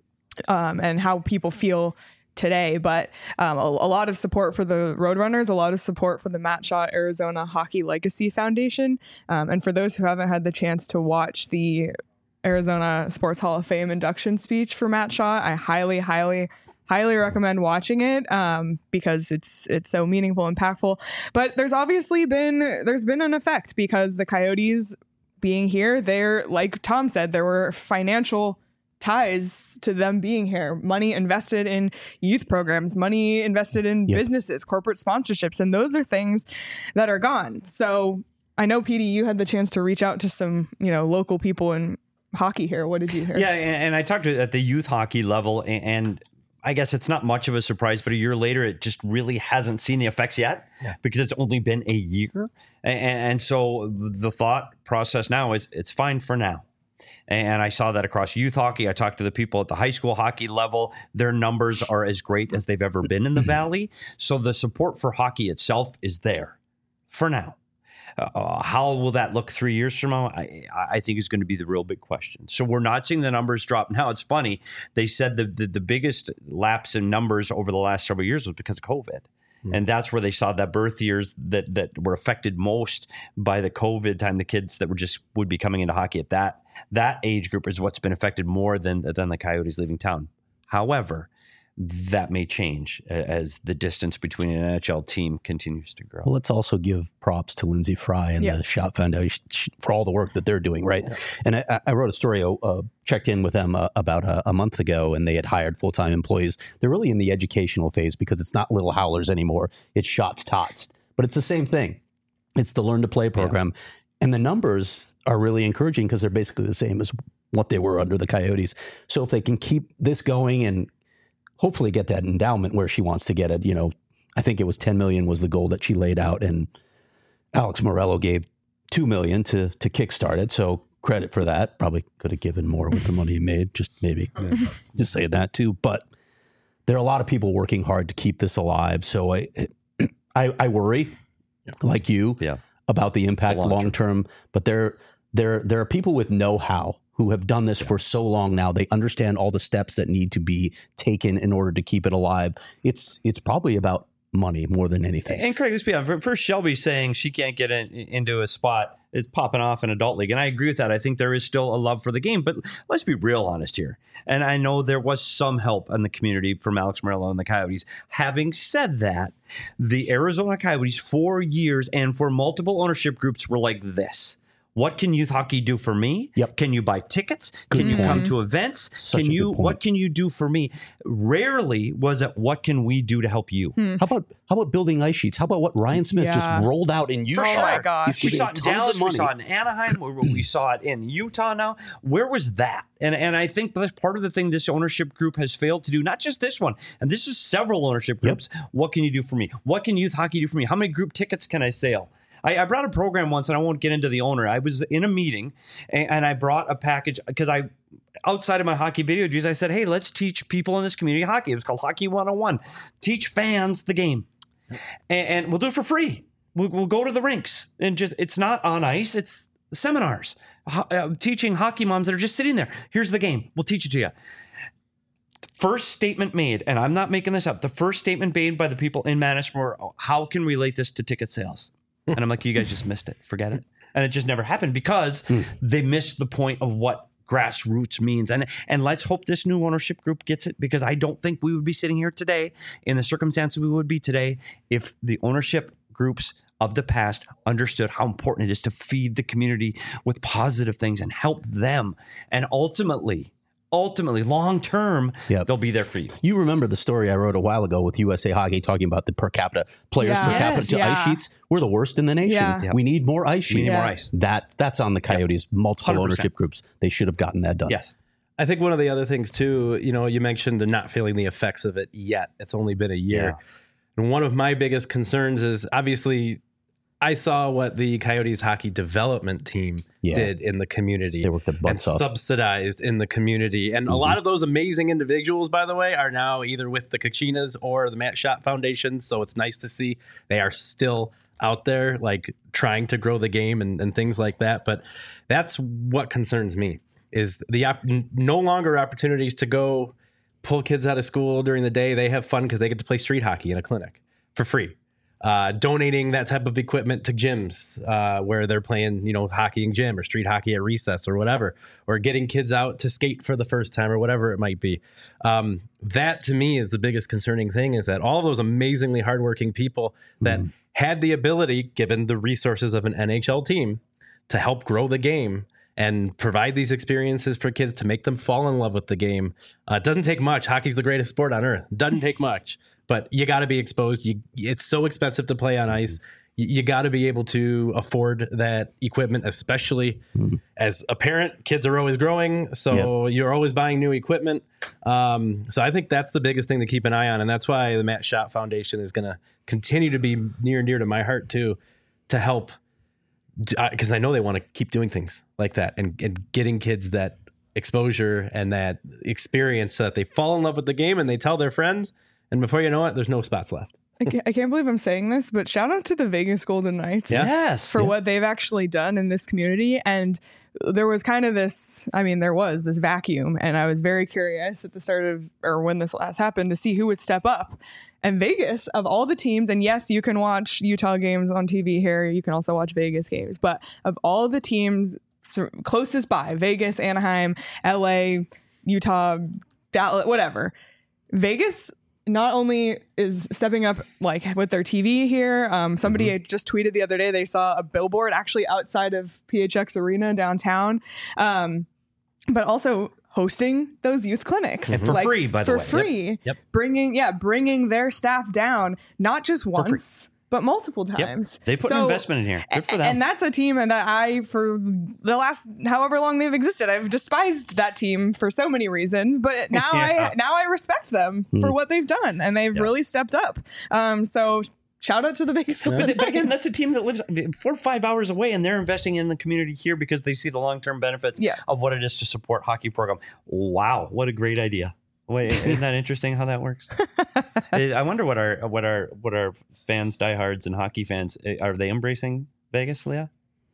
um, and how people feel today. But um, a, a lot of support for the Roadrunners, a lot of support for the Matt Shaw Arizona Hockey Legacy Foundation, um, and for those who haven't had the chance to watch the Arizona Sports Hall of Fame induction speech for Matt Shaw, I highly, highly, highly recommend watching it um, because it's it's so meaningful, impactful. But there's obviously been there's been an effect because the Coyotes being here, they're like Tom said, there were financial ties to them being here, money invested in youth programs, money invested in Yep. businesses, corporate sponsorships, and those are things that are gone. So I know, P D, you had the chance to reach out to some, you know, local people in hockey here. What did you hear? Yeah, and, and I talked to at the youth hockey level, and, and I guess it's not much of a surprise, but a year later, it just really hasn't seen the effects yet Yeah. because it's only been a year. And, and so the thought process now is it's fine for now. And I saw that across youth hockey. I talked to the people at the high school hockey level. Their numbers are as great as they've ever been in the Valley. So the support for hockey itself is there for now. Uh, how will that look three years from now? I, I think is going to be the real big question. So we're not seeing the numbers drop. Now, it's funny. They said the, the, the biggest lapse in numbers over the last several years was because of COVID. And that's where they saw that birth years that, that were affected most by the COVID time. The kids that were just would be coming into hockey at that that age group is what's been affected more than, than the Coyotes leaving town. However, that may change as the distance between an N H L team continues to grow. Well, let's also give props to Lindsey Fry and Yeah. the Shot Foundation for all the work that they're doing, right? Yeah. And I, I wrote a story, uh, checked in with them uh, about a, a month ago, and they had hired full-time employees. They're really in the educational phase because it's not Little Howlers anymore. It's Shots Tots. But it's the same thing. It's the Learn to Play program. Yeah. And the numbers are really encouraging because they're basically the same as what they were under the Coyotes. So if they can keep this going and hopefully get that endowment where she wants to get it, you know, I think it was ten million was the goal that she laid out, and Alex Morello gave two million to to kickstart it. So credit for that. Probably could have given more with the money he made. Just maybe just say that too. But there are a lot of people working hard to keep this alive. So I I, I worry, yeah. like you, yeah. about the impact long, long term. term. But there there there are people with know-how who have done this yeah. for so long now. They understand all the steps that need to be taken in order to keep it alive. It's it's probably about money more than anything. And Craig, let's be honest. First, Shelby saying she can't get in, into a spot is popping off in adult league. And I agree with that. I think there is still a love for the game. But let's be real honest here. And I know there was some help in the community from Alex Morello and the Coyotes. Having said that, the Arizona Coyotes for years and for multiple ownership groups were like this. What can youth hockey do for me? Yep. Can you buy tickets? Good Can you point. come to events? Such can a you? good point. What can you do for me? Rarely was it, what can we do to help you? Hmm. How about how about building ice sheets? How about what Ryan Smith Yeah. just rolled out in Utah? For sure. Oh my gosh. He's We giving saw it in tons Dallas. of We money. saw it in Anaheim. we, we saw it in Utah now. Where was that? And and I think that's part of the thing this ownership group has failed to do. Not just this one. And this is several ownership groups. Yep. What can you do for me? What can youth hockey do for me? How many group tickets can I sell? I, I brought a program once, and I won't get into the owner. I was in a meeting, and, and I brought a package because I, outside of my hockey video juice, I said, hey, let's teach people in this community hockey. It was called Hockey one oh one. Teach fans the game. And, and we'll do it for free. We'll, we'll go to the rinks. And just it's not on ice. It's seminars. Ho- uh, teaching hockey moms that are just sitting there. Here's the game. We'll teach it to you. First statement made, and I'm not making this up, the first statement made by the people in management were, how can we relate this to ticket sales? And I'm like, you guys just missed it. Forget it. And it just never happened because mm. they missed the point of what grassroots means. And and let's hope this new ownership group gets it, because I don't think we would be sitting here today in the circumstances we would be today if the ownership groups of the past understood how important it is to feed the community with positive things and help them. And ultimately, ultimately, long term, yep. they'll be there for you. You remember the story I wrote a while ago with U S A Hockey talking about the per capita players Yeah. per Yes, capita to yeah. ice sheets. We're the worst in the nation. Yeah. Yep. We need more ice sheets. We need Yeah. more ice. That that's on the Coyotes. Yep. Multiple one hundred percent. ownership groups. They should have gotten that done. Yes. I think one of the other things too, you know, you mentioned they're not feeling the effects of it yet. It's only been a year. Yeah. And one of my biggest concerns is obviously I saw what the Coyotes hockey development team Yeah. did in the community. They worked their and butts off. subsidized in the community. And Mhm. a lot of those amazing individuals, by the way, are now either with the Kachinas or the Matt Schott Foundation. So it's nice to see they are still out there, like trying to grow the game and, and things like that. But that's what concerns me is the op- no longer opportunities to go pull kids out of school during the day. They have fun because they get to play street hockey in a clinic for free. Uh, donating that type of equipment to gyms uh, where they're playing, you know, hockey in gym or street hockey at recess or whatever, or getting kids out to skate for the first time or whatever it might be. Um, that to me is the biggest concerning thing, is that all those amazingly hardworking people that mm. had the ability, given the resources of an N H L team, to help grow the game and provide these experiences for kids to make them fall in love with the game. Uh, it doesn't take much. Hockey's the greatest sport on earth. Doesn't take much. But you got to be exposed. You, it's so expensive to play on ice. You, you got to be able to afford that equipment, especially mm. as a parent. Kids are always growing, so yep. you're always buying new equipment. Um, so I think that's the biggest thing to keep an eye on, and that's why the Matt Schott Foundation is going to continue to be near and dear to my heart too, to help, because I know they want to keep doing things like that and, and getting kids that exposure and that experience so that they fall in love with the game and they tell their friends. And before you know it, there's no spots left. I can't, I can't believe I'm saying this, but shout out to the Vegas Golden Knights Yeah. Yes. for Yeah. what they've actually done in this community. And there was kind of this, I mean, there was this vacuum, and I was very curious at the start of, or when this last happened, to see who would step up. And Vegas, of all the teams, and yes, you can watch Utah games on T V here, you can also watch Vegas games, but of all the teams closest by, Vegas, Anaheim, L A, Utah, Dallas, whatever, Vegas not only is stepping up like with their T V here. Um, somebody mm-hmm. just tweeted the other day they saw a billboard actually outside of P H X Arena downtown, um, but also hosting those youth clinics and for like, free, by the for way, for free. Yep. Yep. Bringing yeah, bringing their staff down not just once. But multiple times. Yep. They put so, an investment in here. Good for them. And that's a team that I, for the last however long they've existed, I've despised that team for so many reasons. But now yeah. I now I respect them mm. for what they've done, and they've yeah. really stepped up. Um, so shout out to the Vegas. Yeah. But, but again, that's a team that lives four or five hours away, and they're investing in the community here because they see the long term benefits yeah. of what it is to support hockey program. Wow, what a great idea! Wait, isn't that interesting how that works? I wonder what our what our what our fans, diehards, and hockey fans are they embracing Vegas, Leah?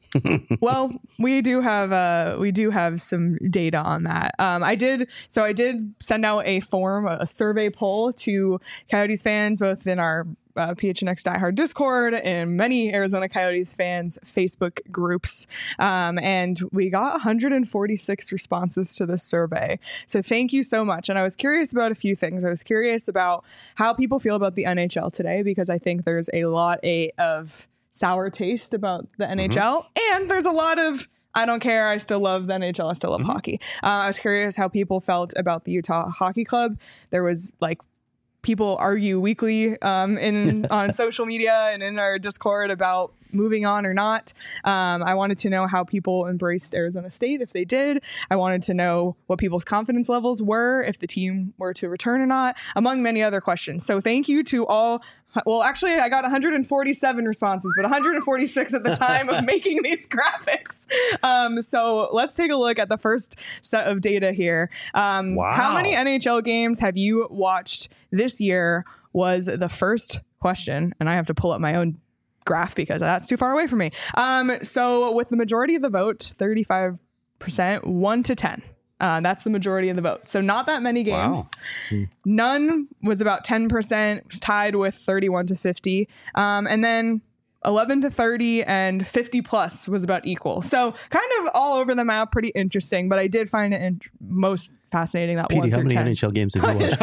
Well, we do have uh we do have some data on that. Um, I did so I did send out a form, a survey poll to Coyotes fans, both in our uh, P H N X Diehard Discord and many Arizona Coyotes fans Facebook groups, um, and we got one hundred forty-six responses to this survey. So thank you so much. And I was curious about a few things. I was curious about how people feel about the N H L today, because I think there's a lot a, of sour taste about the N H L, mm-hmm. and there's a lot of I don't care, I still love the N H L, I still love mm-hmm. hockey. Uh, I was curious how people felt about the Utah Hockey Club. There was like people argue weekly um, in on social media and in our Discord about moving on or not. Um, I wanted to know how people embraced Arizona State, if they did. I wanted to know what people's confidence levels were, if the team were to return or not, among many other questions. So thank you to all. Well, actually, I got one hundred forty-seven responses, but one hundred forty-six at the time of making these graphics. Um, so let's take a look at the first set of data here. Um, wow. How many N H L games have you watched this year was the first question. And I have to pull up my own graph because that's too far away from me. Um, so with the majority of the vote, thirty-five percent, one to ten. Uh, that's the majority of the vote. So not that many games. Wow. None was about ten percent, tied with thirty-one to fifty. Um, and then eleven to thirty and fifty plus was about equal. So kind of all over the map, pretty interesting. But I did find it in- most fascinating that P D, one how through many ten. N H L games have you watched?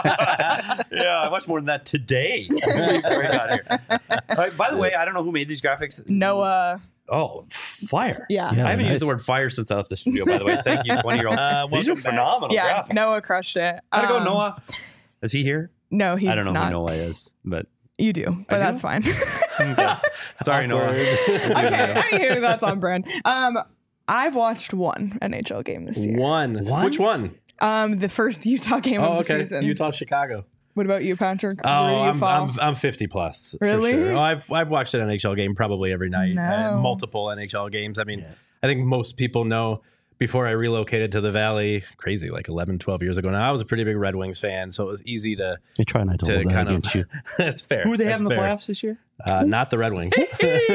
Yeah, I watched more than that today. Before I got here. Uh, by the way, I don't know who made these graphics. Noah. Oh, fire. Yeah. Yeah, I haven't nice. used the word fire since I left the studio, by the way. Thank you, twenty-year-old. Uh, these are phenomenal Yeah, graphics. Noah crushed it. How'd it go, Um, Noah? Is he here? No, he's I don't know not. who Noah is, but... You do, but I do? that's fine. Okay. Sorry, Noah. Okay, anywho, that's on brand. Um, I've watched one N H L game this year. One. One? Which one? Um, the first Utah game Oh, of the okay. season. Utah, Chicago. What about you, Patrick? Oh, Where do you I'm, fall? I'm I'm fifty plus. for Really? sure. Oh, I've I've watched an N H L game probably every night. No. Uh, multiple N H L games. I mean, I think most people know. Before I relocated to the Valley, crazy, like eleven, twelve years ago now, I was a pretty big Red Wings fan, so it was easy to... You try not to, to hold that kind of, against you. That's fair. Who do they have That's in the fair. playoffs this year? Uh, not the Red Wings. When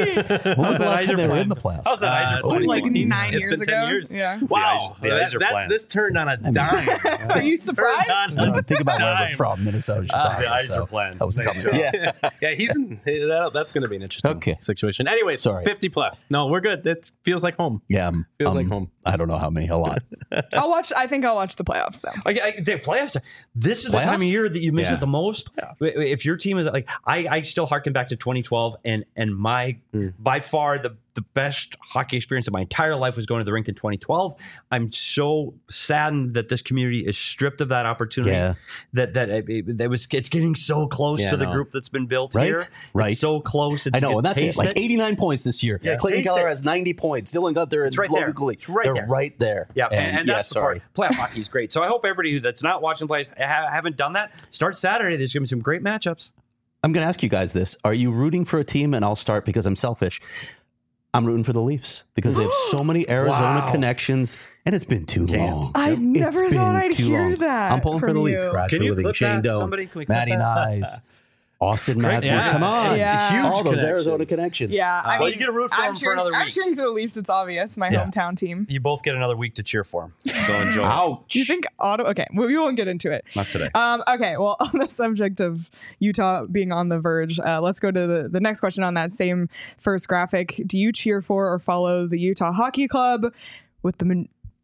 was the last time they were in the playoffs? How's that Uh, Iser plan? like twenty sixteen. nine It's years been ago. ten years. Yeah. Wow. The That- Iser that- plan. This turned on a dime. Are you This turned surprised? on I mean, think about where we're dime. from, Minnesota, Uh, Chicago. the Iser so plan. That was Nice coming. job. Yeah. yeah, he's in. That, that's going to be an interesting Okay. situation. Anyway, Sorry. fifty plus. No, we're good. It feels like home. Yeah. um, Feels um, like home. I don't know how many, a lot. I'll watch. I think I'll watch the playoffs though. I, I, the playoffs. This is the Playoffs? time of year that you miss Yeah. it the most. If your team is like, I, I still harken back to twenty twelve, and and my Mm. by far the the best hockey experience of my entire life was going to the rink in twenty twelve. I'm so saddened that this community is stripped of that opportunity. Yeah. That that it, it, that was it's getting so close Yeah, to the no. group that's been built Right? here. Right. It's so close. It's, I know, you and that's it. taste Like eighty-nine points this year. Yeah, Clayton taste Keller it. has ninety points. Dylan Gunther and It's right there. Logan Cooley. It's right They're there. right there. Yeah, and, and, and yeah, that's the sorry. part. Playoff hockey is great. So I hope everybody who that's not watching plays ha- haven't done that. Start Saturday. There's going to be some great matchups. I'm going to ask you guys this. Are you rooting for a team? And I'll start because I'm selfish. I'm rooting for the Leafs because they have so many Arizona Wow. connections, and it's been too Damn. long. I It's never been thought I'd too hear long. that I'm pulling for from the Leafs. you. Brad Can you Living, clip Shane that? Doan, Somebody, can we clip Matty that? Nyes, Austin Matthews. yeah. Come on. Yeah. Huge All those connections. Arizona connections. Yeah, I well, mean, you get to root for I'm them for cheering, another I'm week. cheering for the Leafs. It's obvious. My Yeah. hometown team. You both get another week to cheer for them. So enjoy. Ouch. Do you think Ottawa? Okay, well, we won't get into it. Not today. Um, okay, well, on the subject of Utah being on the verge, uh, let's go to the, the next question on that same first graphic. Do you cheer for or follow the Utah Hockey Club? With the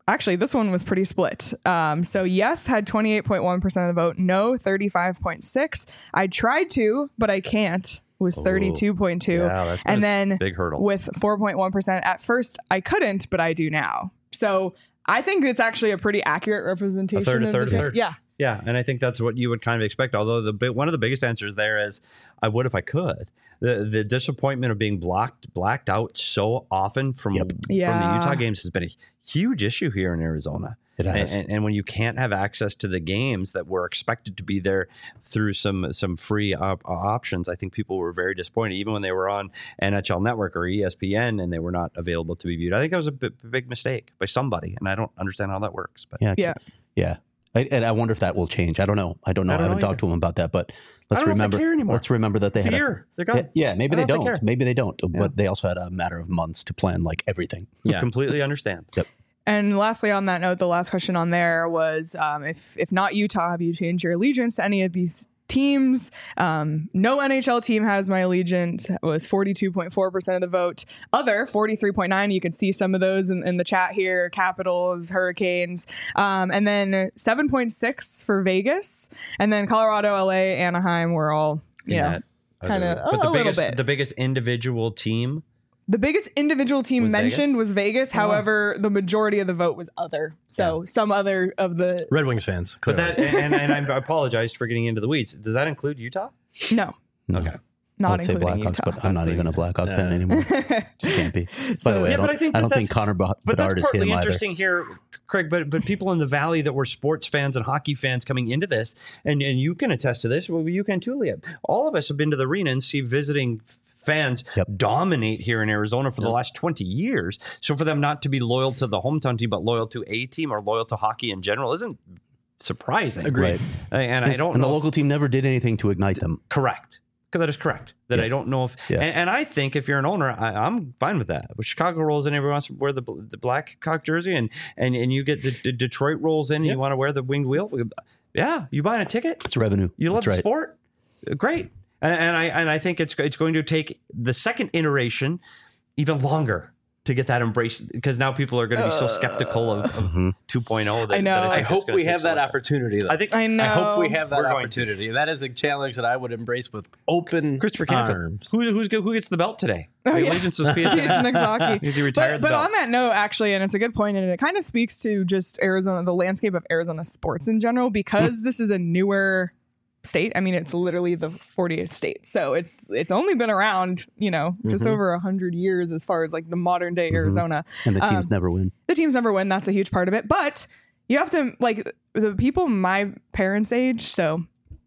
Actually, this one was pretty split. Um, so yes had twenty-eight point one percent of the vote. No, thirty-five point six. I tried to, but I can't. Was thirty-two point two. Yeah, that's been and a then big hurdle. with four point one percent. At first, I couldn't, but I do now. So I think it's actually a pretty accurate representation. A third, a of third, the a third. Yeah. Yeah, and I think that's what you would kind of expect. Although the big, one of the biggest answers there is, I would if I could. The the disappointment of being blocked blacked out so often from Yep. from the Yeah. Utah games has been a huge issue here in Arizona. It has. And, and, and when you can't have access to the games that were expected to be there through some some free op- options, I think people were very disappointed, even when they were on N H L Network or E S P N and they were not available to be viewed. I think that was a b- big mistake by somebody, and I don't understand how that works. But Yeah. Yeah. Yeah. I, and I wonder if that will change. I don't know. I don't know. I I, don't haven't know talked to them about that, but let's don't know if they remember. care anymore. Let's remember that they it's a had year. They're gone. Yeah, maybe I they don't know if they don't. care. Maybe they don't. But they also had a matter of months to plan like everything. Yeah. Completely understand. And lastly, on that note, the last question on there was, um, if if not Utah, have you changed your allegiance to any of these teams? Um, no N H L team has my allegiance. It was forty-two point four percent of the vote. Other, forty-three point nine. You can see some of those in, in the chat here. Capitals, Hurricanes. Um, and then seven point six for Vegas. And then Colorado, L A, Anaheim were all, you in know, that kind of other- but a the little biggest bit. the biggest individual team. The biggest individual team Was mentioned Vegas? was Vegas. Oh, wow. However, the majority of the vote was other. So some other of the Red Wings fans. But Clearly. that and, and I apologize for getting into the weeds. Does that include Utah? no, No. Okay. I not would say including Blackhawks, Utah. but I'm not even a Blackhawk fan Yeah. anymore. Just can't be. By So- the way, Yeah, I don't, but I think I that don't think that's- Connor Ba- But Bedard that's is partly him either. interesting here, Craig. But but people in the valley that were sports fans and hockey fans coming into this, and, and you can attest to this. Well, you can too, Leah. All of us have been to the arena and see visiting fans Yep. dominate here in Arizona for the last twenty years. So for them not to be loyal to the hometown team, but loyal to a team or loyal to hockey in general, isn't surprising. Right. And I don't And know the if- local team never did anything to ignite them. Correct. That is correct. That Yeah. I don't know if, Yeah. and, and I think if you're an owner, I, I'm fine with that. But Chicago rolls in, everyone wants to wear the the black cock jersey, and and and you get the, the Detroit rolls in, and you want to wear the winged wheel. Yeah, you buying a ticket? It's revenue. You love That's right. the sport? Great. And, and I and I think it's it's going to take the second iteration even longer to get that embraced, because now people are going to be so skeptical of, of Mhm. two point oh. That, I know. that I I think it's hope gonna we take have so that much. opportunity. Though. I think I know. I hope we have that We're going to. opportunity. That is a challenge that I would embrace with open Christopher Canfield. arms. Who, who's who gets the belt today? Oh, the yeah. allegiance of P S P H Nagzaki. Is he retired? But, but the belt? on that note, actually, and it's a good point, and it kind of speaks to just Arizona, the landscape of Arizona sports in general, because this is a newer state. I mean, it's literally the fortieth state, so it's it's only been around, you know, just Mhm. over a hundred years as far as like the modern day Mhm. Arizona. And the teams Um, never win. The teams never win. That's a huge part of it. But you have to like the people my parents' age. So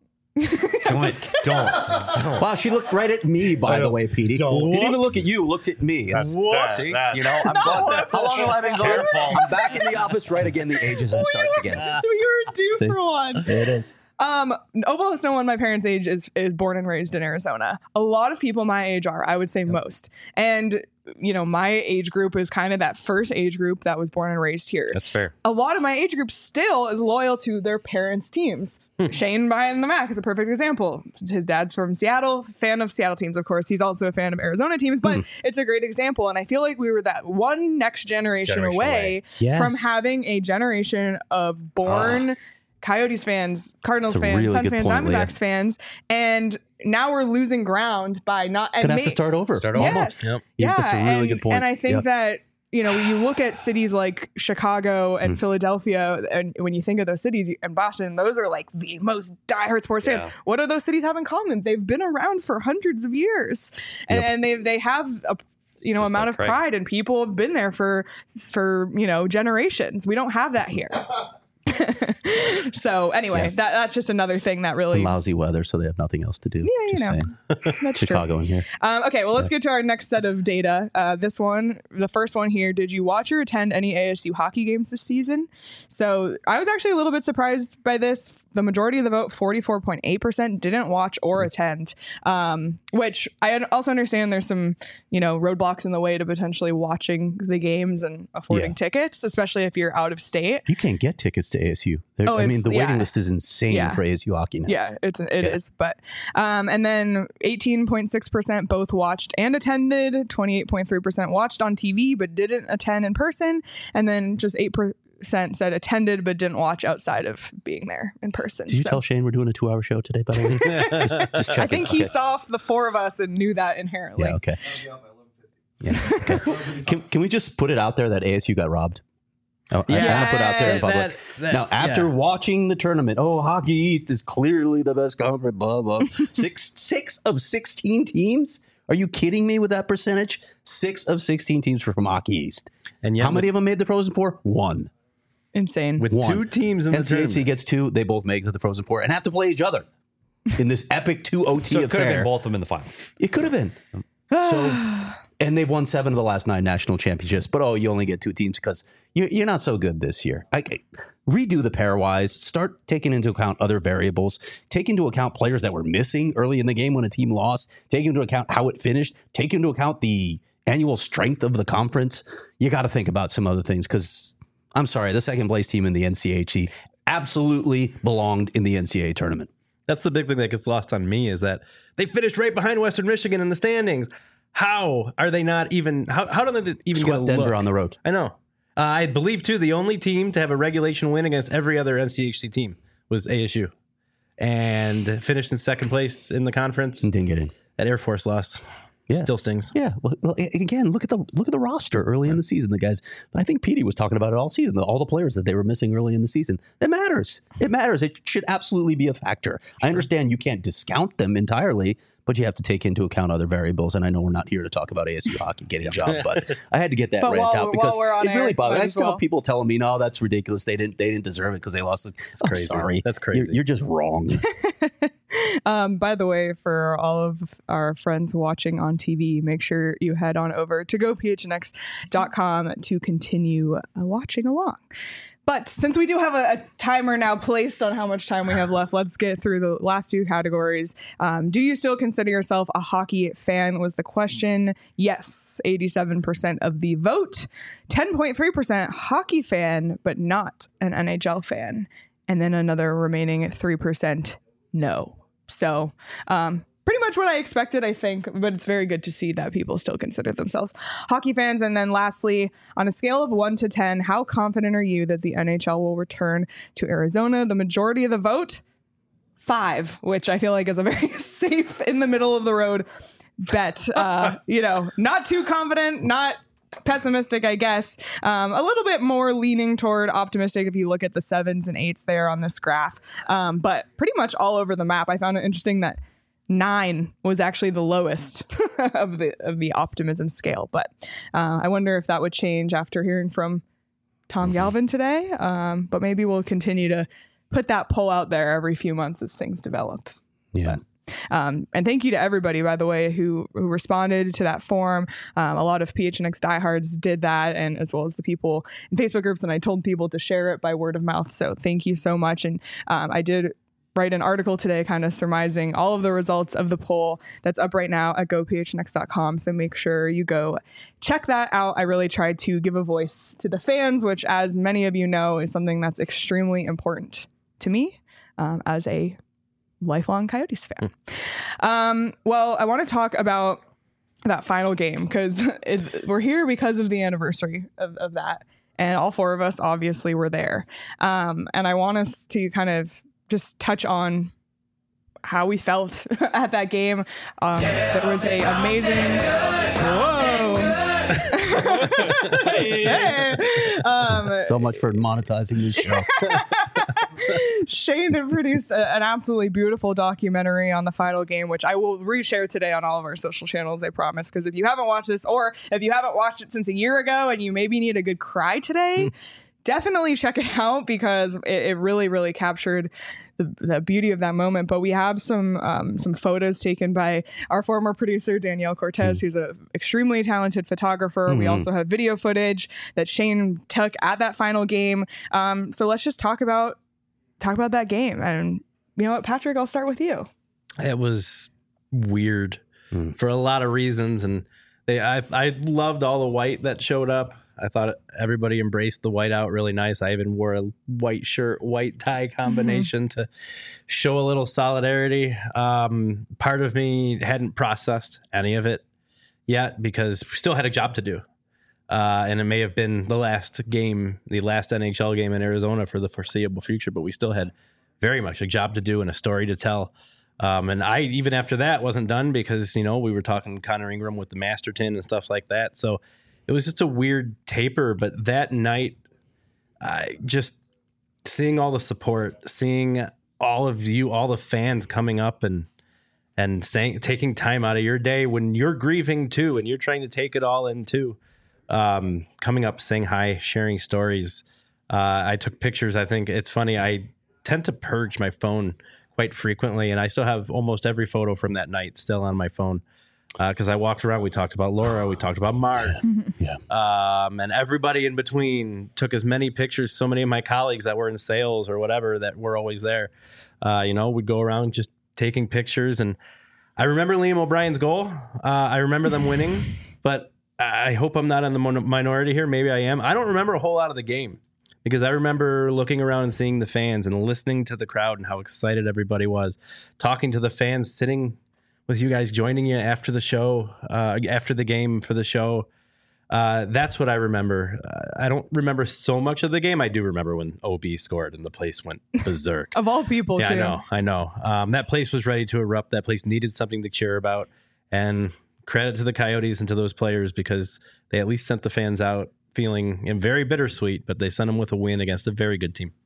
Don't, don't, don't. Wow, she looked right at me, by the way, Petey. Don't. Didn't even look at you, looked at me. It's- That's- See, that's- you know, I'm No, gone. that's- How long have I been gone? Careful. I'm back in the office right again. The ageism starts again. you're due See? for one. There it is. Um, almost no one my parents' age is is born and raised in Arizona. A lot of people my age are, I would say most. And you know, my age group is kind of that first age group that was born and raised here. That's fair. A lot of my age group still is loyal to their parents' teams. Shane behind the Mac is a perfect example. His dad's from Seattle, fan of Seattle teams, of course. He's also a fan of Arizona teams, but it's a great example. And I feel like we were that one next generation, Generation away, away. Yes. from having a generation of born Coyotes fans, Cardinals That's a fans, really Suns good fans, point, Leah. Diamondbacks fans, and now we're losing ground by not. And Gonna have may- to start over. Start over. Yes. Yep. Yeah, That's a really and, good point. And I think Yep. that, you know, when you look at cities like Chicago and Mm. Philadelphia, and when you think of those cities and Boston, those are like the most diehard sports Yeah. fans. What do those cities have in common? They've been around for hundreds of years, and, Yep. and they they have a you know Just amount like of Craig. pride, and people have been there for for you know generations. We don't have that here. So anyway, Yeah. that that's just another thing that really And lousy weather, so they have nothing else to do. Yeah, you Just know. saying. that's Chicago in here. Um, okay, well, let's get to our next set of data. Uh, this one, the first one here, did you watch or attend any A S U hockey games this season? So I was actually a little bit surprised by this. The majority of the vote, forty-four point eight percent, didn't watch or attend, um, which I un- also understand there's some, you know, roadblocks in the way to potentially watching the games and affording Yeah. tickets, especially if you're out of state. You can't get tickets to A S U. There- Oh, I mean, it's- the waiting yeah. list is insane Yeah. for A S U hockey now. Yeah, it's it is. But um, and then eighteen point six percent both watched and attended. twenty-eight point three percent watched on T V but didn't attend in person, and then just eight per, sent said attended but didn't watch outside of being there in person. Did you So tell Shane we're doing a two-hour show today, by the way? just, just checking. I think he Okay. saw the four of us and knew that inherently. Yeah, okay. Yeah, okay. Can, can we just put it out there that A S U got robbed? I, I want to put out there in public. That's- that- Now, after yeah. watching the tournament, oh, Hockey East is clearly the best conference, blah, blah. Six, six of sixteen teams? Are you kidding me with that percentage? Six of sixteen teams were from Hockey East. And yet How many of them made the Frozen Four? One. Insane. with One. two teams in the N C H C tournament. gets two. They both make it to the Frozen Four and have to play each other in this epic two O T So it could have affair. been both of them in the final. It could have been. So, and they've won seven of the last nine national championships. But oh, you only get two teams because you're, you're not so good this year. I, I- redo the pairwise. Start taking into account other variables. Take into account players that were missing early in the game when a team lost. Take into account how it finished. Take into account the annual strength of the conference. You got to think about some other things because I'm sorry, the second place team in the N C H C absolutely belonged in the N C A A tournament. That's the big thing that gets lost on me is that they finished right behind Western Michigan in the standings. How are they not even? How, how do they even Swept get a Denver look? on the road. I know. Uh, I believe too the only team to have a regulation win against every other N C H C team was A S U, and finished in second place in the conference. And didn't get in. At Air Force lost. Yeah. Still stings. Yeah. Well, well, a- again, look at the look at the roster early in the season. The guys, I think Petey was talking about it all season. All the players that they were missing early in the season. It matters. It matters. It should absolutely be a factor. I understand you can't discount them entirely, but you have to take into account other variables. And I know we're not here to talk about A S U hockey getting a job, but I had to get that But rant while- out because while we're on it really air, bothered. might I as still well. have people telling me, "No, that's ridiculous. They didn't. They didn't deserve it because they lost." That's crazy. Sorry, That's You're, crazy. you're just wrong. Um, by the way, for all of our friends watching on T V, make sure you head on over to go p h n x dot com to continue uh, watching along. But since we do have a, a timer now placed on how much time we have left, let's get through the last two categories. Um, do you still consider yourself a hockey fan was the question. Yes, eighty-seven percent of the vote. ten point three percent hockey fan, but not an N H L fan. And then another remaining three percent no. So um, pretty much what I expected, I think, but it's very good to see that people still consider themselves hockey fans. And then lastly, on a scale of one to ten, how confident are you that the N H L will return to Arizona? The majority of the vote, five, which I feel like is a very safe, in the middle of the road bet. Uh, you know, not too confident, not pessimistic, I guess. Um, a little bit more leaning toward optimistic if you look at the sevens and eights there on this graph. Um, but pretty much all over the map. I found it interesting that nine was actually the lowest of the of the optimism scale. But uh, I wonder if that would change after hearing from Tom Galvin today. Um, but maybe we'll continue to put that poll out there every few months as things develop. Yeah. Um, and thank you to everybody, by the way, who, who responded to that form. Um, a lot of P H N X diehards did that, and as well as the people in Facebook groups. And I told people to share it by word of mouth. So thank you so much. And um, I did write an article today kind of surmising all of the results of the poll that's up right now at go p h n x dot com. So make sure you go check that out. I really tried to give a voice to the fans, which, as many of you know, is something that's extremely important to me um, as a lifelong Coyotes fan. Um, well, I want to talk about that final game because we're here because of the anniversary of, of that. And all four of us obviously were there. Um, and I want us to kind of just touch on how we felt at that game. Um, there was a amazing, whoa. Hey. Um, So much for monetizing this show. Shane had produced a, an absolutely beautiful documentary on the final game, which I will reshare today on all of our social channels, I promise. Because if you haven't watched this, or if you haven't watched it since a year ago and you maybe need a good cry today, definitely check it out because it, it really, really captured the, the beauty of that moment. But we have some um, some photos taken by our former producer, Danielle Cortez, who's an extremely talented photographer. Mm-hmm. We also have video footage that Shane took at that final game. Um, so let's just talk about talk about that game. And you know what, Patrick, I'll start with you. It was weird Mm. for a lot of reasons, and they I I loved all the white that showed up. I thought everybody embraced the white out really nice. I even wore a white shirt, white tie combination mm-hmm. to show a little solidarity. Um, part of me hadn't processed any of it yet because we still had a job to do. Uh, and it may have been the last game, the last N H L game in Arizona for the foreseeable future, but we still had very much a job to do and a story to tell. Um, and I, even after that, wasn't done because, you know, we were talking Connor Ingram with the Masterton and stuff like that. So it was just a weird taper. But that night, I just seeing all the support, seeing all of you, all the fans coming up and and saying, taking time out of your day when you're grieving too, and you're trying to take it all in too. Um, coming up, saying hi, sharing stories. Uh, I took pictures. I think it's funny. I tend to purge my phone quite frequently, and I still have almost every photo from that night still on my phone because uh, I walked around. We talked about Laura. We talked about Mark. Yeah. Um, and everybody in between took as many pictures. So many of my colleagues that were in sales or whatever that were always there, uh, you know, would go around just taking pictures. And I remember Liam O'Brien's goal. Uh, I remember them winning, but I hope I'm not in the minority here. Maybe I am. I don't remember a whole lot of the game because I remember looking around and seeing the fans and listening to the crowd and how excited everybody was, talking to the fans, sitting with you guys, joining you after the show, uh, after the game for the show. Uh, that's what I remember. Uh, I don't remember so much of the game. I do remember when O B scored and the place went berserk. Of all people, yeah, too. I know. I know. Um, that place was ready to erupt. That place needed something to cheer about. And credit to the Coyotes and to those players because they at least sent the fans out feeling and very bittersweet, but they sent them with a win against a very good team.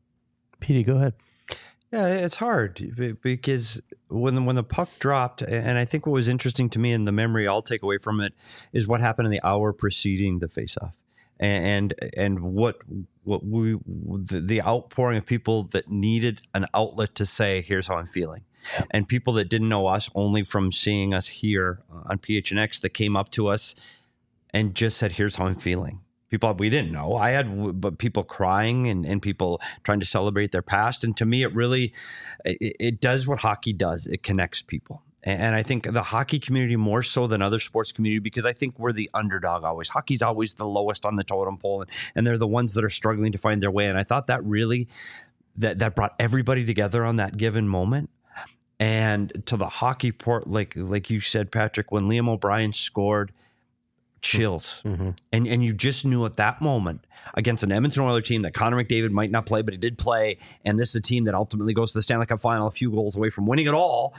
Petey, go ahead. Yeah, it's hard because when the, when the puck dropped, and I think what was interesting to me and the memory I'll take away from it is what happened in the hour preceding the faceoff, and and what what we the, the outpouring of people that needed an outlet to say, "Here's how I'm feeling." And people that didn't know us only from seeing us here on P H N X that came up to us and just said, here's how I'm feeling. People we didn't know. I had but people crying and, and people trying to celebrate their past. And to me, it really, it, it does what hockey does. It connects people. And, and I think the hockey community more so than other sports community, because I think we're the underdog always. Hockey's always the lowest on the totem pole. And, and they're the ones that are struggling to find their way. And I thought that really, that, that brought everybody together on that given moment. And to the hockey port, like like you said, Patrick, when Liam O'Brien scored, chills. Mm-hmm. And and you just knew at that moment against an Edmonton Oilers team that Connor McDavid might not play, but he did play. And this is a team that ultimately goes to the Stanley Cup final a few goals away from winning it all.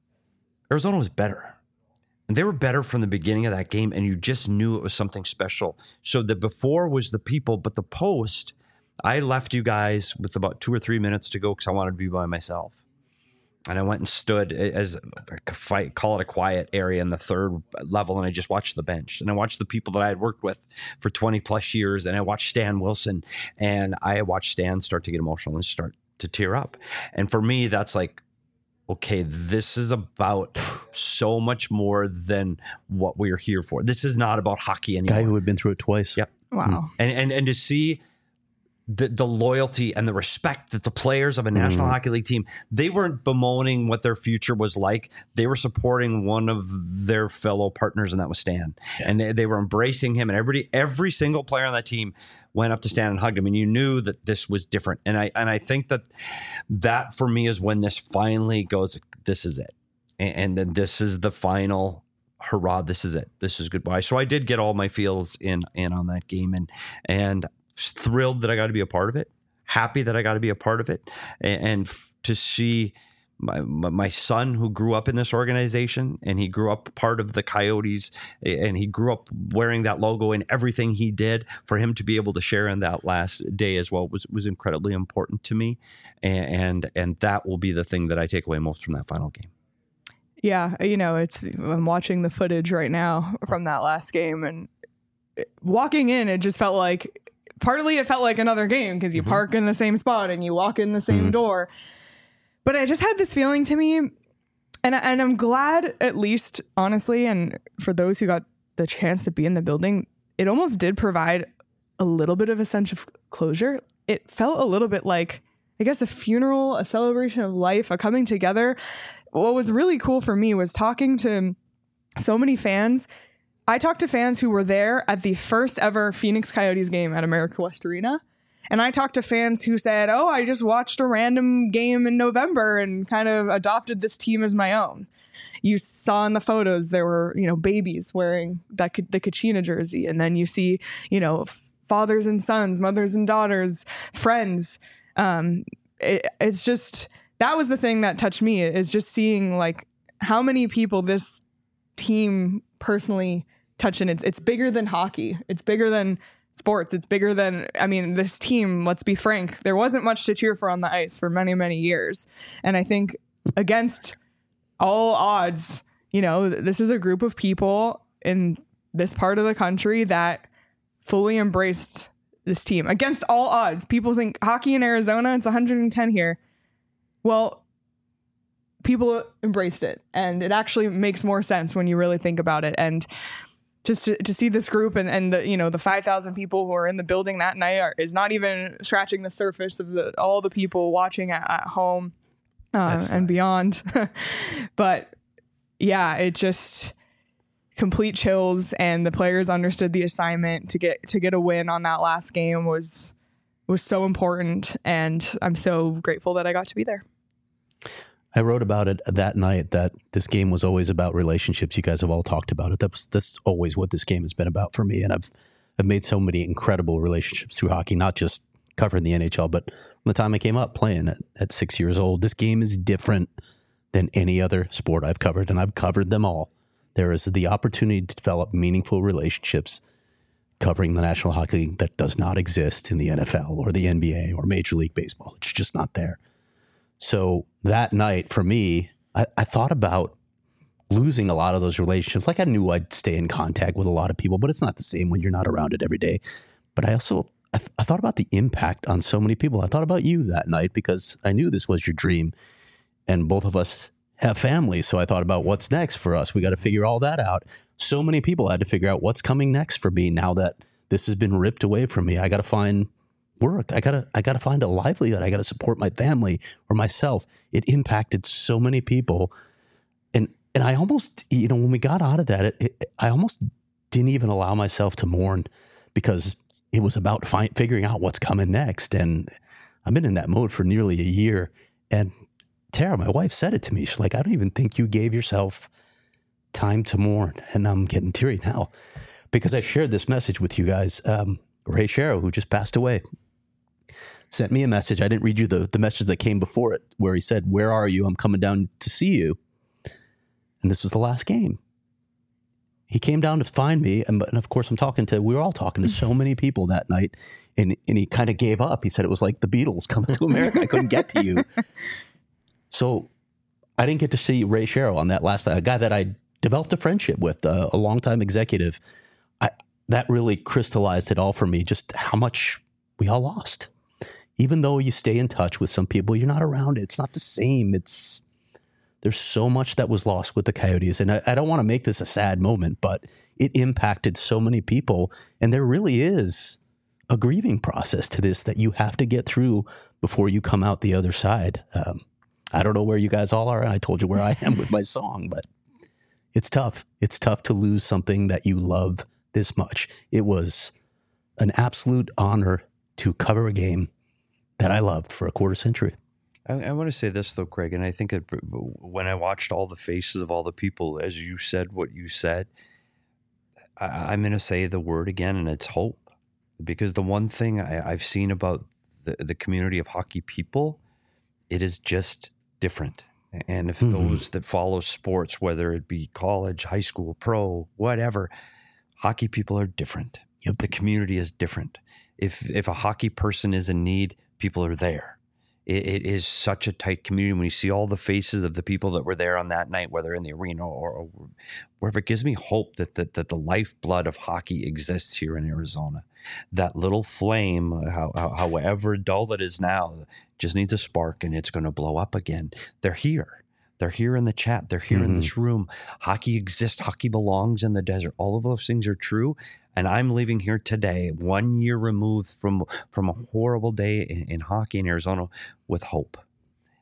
Arizona was better. And they were better from the beginning of that game. And you just knew it was something special. So the before was the people, but the post, I left you guys with about two or three minutes to go because I wanted to be by myself. And I went and stood as a fight, call it a quiet area in the third level. And I just watched the bench and I watched the people that I had worked with for twenty plus years. And I watched Stan Wilson and I watched Stan start to get emotional and start to tear up. And for me, that's like, okay, this is about so much more than what we're here for. This is not about hockey anymore. Guy who had been through it twice. Yep. Wow. And, and, and to see The, the loyalty and the respect that the players of a National mm. Hockey League team, they weren't bemoaning what their future was like. They were supporting one of their fellow partners, and that was Stan. Yeah. And they, they were embracing him. And everybody, every single player on that team went up to Stan and hugged him. And you knew that this was different. And I and I think that that for me is when this finally goes, this is it. And, and then this is the final hurrah. This is it. This is goodbye. So I did get all my feels in, in on that game. And, and, thrilled that I got to be a part of it, happy that I got to be a part of it, and, and f- to see my my son who grew up in this organization and he grew up part of the Coyotes and he grew up wearing that logo and everything he did, for him to be able to share in that last day as well was was incredibly important to me, and and, and that will be the thing that I take away most from that final game. Yeah, you know, it's I'm watching the footage right now from that last game, and walking in, it just felt like. Partly it felt like another game because you mm-hmm. park in the same spot and you walk in the same mm-hmm. door. But I just had this feeling to me, and, and I'm glad, at least, honestly, and for those who got the chance to be in the building, it almost did provide a little bit of a sense of closure. It felt a little bit like, I guess, a funeral, a celebration of life, a coming together. What was really cool for me was talking to so many fans. I talked to fans who were there at the first ever Phoenix Coyotes game at America West Arena. And I talked to fans who said, oh, I just watched a random game in November and kind of adopted this team as my own. You saw in the photos there were, you know, babies wearing that the Kachina jersey. And then you see, you know, fathers and sons, mothers and daughters, friends. Um, it, it's just, that was the thing that touched me, is just seeing like how many people this team personally touch. And it's, it's bigger than hockey. It's bigger than sports. It's bigger than, I mean, this team, let's be frank, there wasn't much to cheer for on the ice for many, many years. And I think against all odds, you know, this is a group of people in this part of the country that fully embraced this team against all odds. People think hockey in Arizona, it's one hundred ten here. Well, people embraced it, and it actually makes more sense when you really think about it. And just to, to see this group and, and the, you know, the five thousand people who are in the building that night are, is not even scratching the surface of the, all the people watching at, at home uh, and beyond. But yeah, it just complete chills, and the players understood the assignment to get, to get a win on that last game was, was so important. And I'm so grateful that I got to be there. I wrote about it that night, that this game was always about relationships. You guys have all talked about it. That was, that's always what this game has been about for me. And I've, I've made so many incredible relationships through hockey, not just covering the N H L, but from the time I came up playing at, at six years old. This game is different than any other sport I've covered, and I've covered them all. There is the opportunity to develop meaningful relationships covering the National Hockey League that does not exist in the N F L or the N B A or Major League Baseball. It's just not there. So that night for me, I, I thought about losing a lot of those relationships. Like I knew I'd stay in contact with a lot of people, but it's not the same when you're not around it every day. But I also, I, th- I thought about the impact on so many people. I thought about you that night because I knew this was your dream, and both of us have families. So I thought about what's next for us. We got to figure all that out. So many people had to figure out what's coming next for me now that this has been ripped away from me. I got to find work. I gotta, I gotta find a livelihood. I gotta support my family or myself. It impacted so many people. And, and I almost, you know, when we got out of that, it, it, I almost didn't even allow myself to mourn because it was about fi- figuring out what's coming next. And I've been in that mode for nearly a year. And Tara, my wife, said it to me. She's like, I don't even think you gave yourself time to mourn. And I'm getting teary now because I shared this message with you guys. Um, Ray Shero, who just passed away, sent me a message. I didn't read you the, the message that came before it, where he said, where are you? I'm coming down to see you. And this was the last game. He came down to find me. And, and of course, I'm talking to, we were all talking to so many people that night. And, and he kind of gave up. He said it was like the Beatles coming to America. I couldn't get to you. So I didn't get to see Ray Shero on that last night, a guy that I developed a friendship with, uh, a longtime executive. I, that really crystallized it all for me, just how much we all lost. Even though you stay in touch with some people, you're not around it. It's not the same. It's there's so much that was lost with the Coyotes. And I, I don't want to make this a sad moment, but it impacted so many people. And there really is a grieving process to this that you have to get through before you come out the other side. Um, I don't know where you guys all are. I told you where I am with my song, but it's tough. It's tough to lose something that you love this much. It was an absolute honor to cover a game that I loved for a quarter century. I, I want to say this, though, Craig, and I think it, when I watched all the faces of all the people, as you said what you said, I, I'm going to say the word again, and it's hope. Because the one thing I, I've seen about the, the community of hockey people, it is just different. And if mm-hmm. those that follow sports, whether it be college, high school, pro, whatever, hockey people are different. Yep. The community is different. If if a hockey person is in need, people are there. It, it is such a tight community. When you see all the faces of the people that were there on that night, whether in the arena or, or wherever, it gives me hope that, that that the lifeblood of hockey exists here in Arizona. That little flame, how, how, however dull it is now, just needs a spark and it's going to blow up again. They're here. They're here in the chat. They're here mm-hmm. in this room. Hockey exists. Hockey belongs in the desert. All of those things are true. And I'm leaving here today, one year removed from, from a horrible day in, in hockey in Arizona, with hope.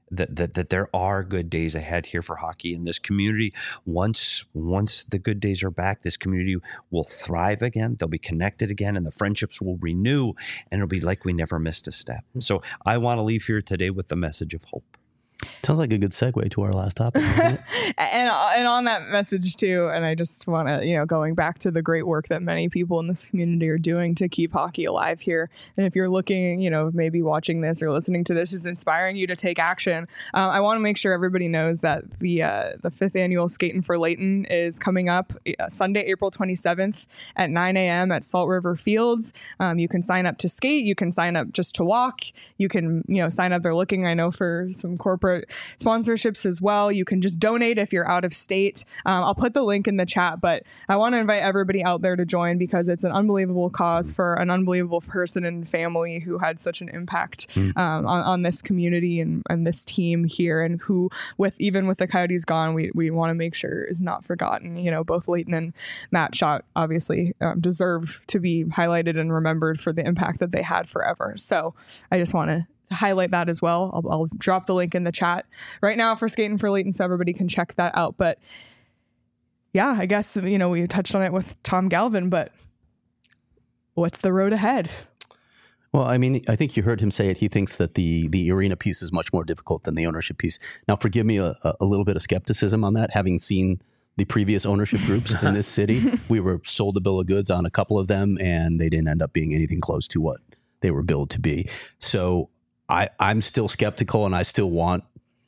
that, that that there are good days ahead here for hockey in this community. Once once the good days are back, this community will thrive again. They'll be connected again, and the friendships will renew, and it'll be like we never missed a step. So I want to leave here today with the message of hope. Sounds like a good segue to our last topic. Doesn't it? and and on that message too, and I just want to, you know, going back to the great work that many people in this community are doing to keep hockey alive here. And if you're looking, you know, maybe watching this or listening to this is inspiring you to take action, uh, I want to make sure everybody knows that the uh, the fifth annual Skating for Layton is coming up uh, Sunday, April twenty-seventh at nine a.m. at Salt River Fields. Um, you can sign up to skate. You can sign up just to walk. You can, you know, sign up. They're looking, I know, for some corporate sponsorships as well. You can just donate if you're out of state. Um, I'll put the link in the chat, but I want to invite everybody out there to join because it's an unbelievable cause for an unbelievable person and family who had such an impact mm. um, on, on this community and, and this team here, and who, with even with the Coyotes gone, we, we want to make sure is not forgotten. You know, both Layton and Matt Schott obviously um, deserve to be highlighted and remembered for the impact that they had forever. So I just want to to highlight that as well. I'll, I'll drop the link in the chat right now for Skating for Layton so everybody can check that out. But yeah, I guess, you know, we touched on it with Tom Galvin, but what's the road ahead? Well, I mean, I think you heard him say it. He thinks that the the arena piece is much more difficult than the ownership piece. Now, forgive me a, a little bit of skepticism on that, having seen the previous ownership groups in this city. We were sold a bill of goods on a couple of them, and they didn't end up being anything close to what they were billed to be. So I, I'm still skeptical, and I still want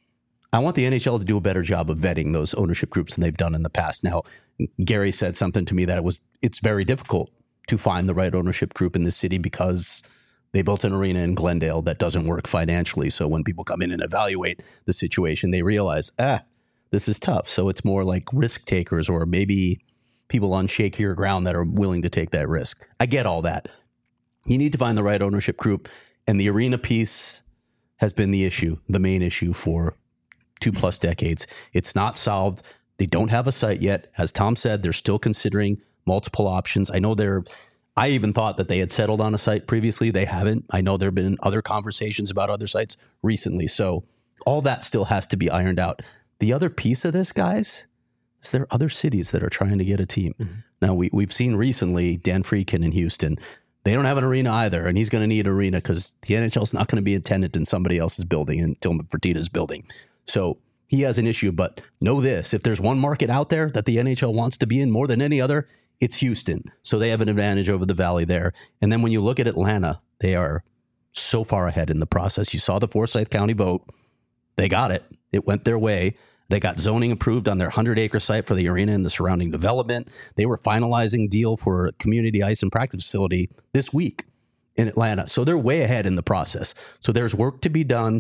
I want the N H L to do a better job of vetting those ownership groups than they've done in the past. Now, Gary said something to me that it was it's very difficult to find the right ownership group in this city because they built an arena in Glendale that doesn't work financially. So when people come in and evaluate the situation, they realize, ah, this is tough. So it's more like risk takers or maybe people on shakier ground that are willing to take that risk. I get all that. You need to find the right ownership group. And the arena piece has been the issue, the main issue for two plus decades. It's not solved. They don't have a site yet. As Tom said, they're still considering multiple options. I know they're, I even thought that they had settled on a site previously. They haven't. I know there have been other conversations about other sites recently. So all that still has to be ironed out. The other piece of this, guys, is there are other cities that are trying to get a team. Mm-hmm. Now, we, we've seen recently Dan Friedkin in Houston. They don't have an arena either, and he's going to need an arena because the N H L is not going to be a tenant in somebody else's building, in Tillman Fertitta's building. So he has an issue, but know this, if there's one market out there that the N H L wants to be in more than any other, it's Houston. So they have an advantage over the Valley there. And then when you look at Atlanta, they are so far ahead in the process. You saw the Forsyth County vote. They got it. It went their way. They got zoning approved on their hundred-acre site for the arena and the surrounding development. They were finalizing deal for a community ice and practice facility this week in Atlanta. So they're way ahead in the process. So there's work to be done.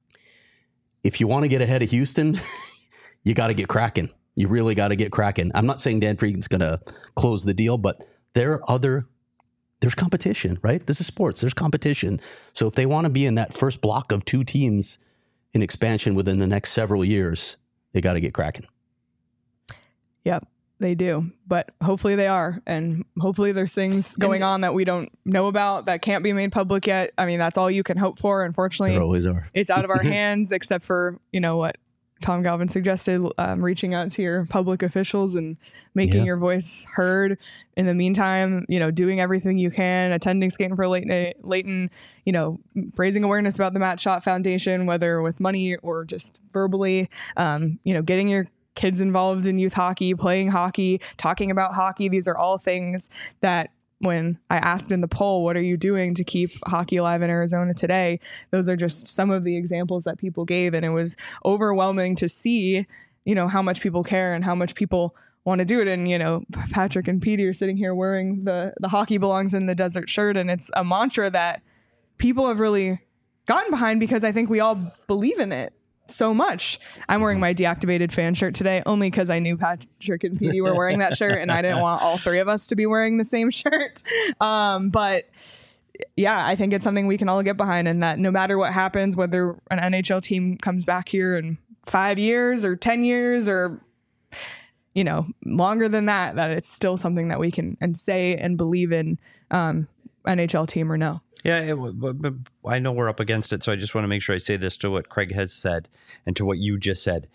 If you want to get ahead of Houston, you got to get cracking. You really got to get cracking. I'm not saying Dan Friedkin's going to close the deal, but there are other, there's competition, right? This is sports. There's competition. So if they want to be in that first block of two teams in expansion within the next several years, they got to get cracking. Yep, they do. But hopefully they are. And hopefully there's things going on that we don't know about that can't be made public yet. I mean, that's all you can hope for. Unfortunately, there always are. It's out of our hands, except for, you know, what Tom Galvin suggested, um, reaching out to your public officials and making yeah. your voice heard. In the meantime, you know, doing everything you can, attending Skating for Layton, Layton, you know, raising awareness about the Matt Schott Foundation, whether with money or just verbally, um, you know, getting your kids involved in youth hockey, playing hockey, talking about hockey. These are all things that when I asked in the poll, what are you doing to keep hockey alive in Arizona today? Those are just some of the examples that people gave. And it was overwhelming to see, you know, how much people care and how much people want to do it. And, you know, Patrick and Petey are sitting here wearing the, the hockey belongs in the desert shirt. And it's a mantra that people have really gotten behind because I think we all believe in it so much. I'm wearing my deactivated fan shirt today only because I knew Patrick and Petey were wearing that shirt and I didn't want all three of us to be wearing the same shirt. Um, but yeah, I think it's something we can all get behind, and that no matter what happens, whether an N H L team comes back here in five years or ten years or, you know, longer than that, that it's still something that we can and say and believe in. Um, N H L team or no. Yeah, it, but, but I know we're up against it, so I just want to make sure I say this to what Craig has said and to what you just said.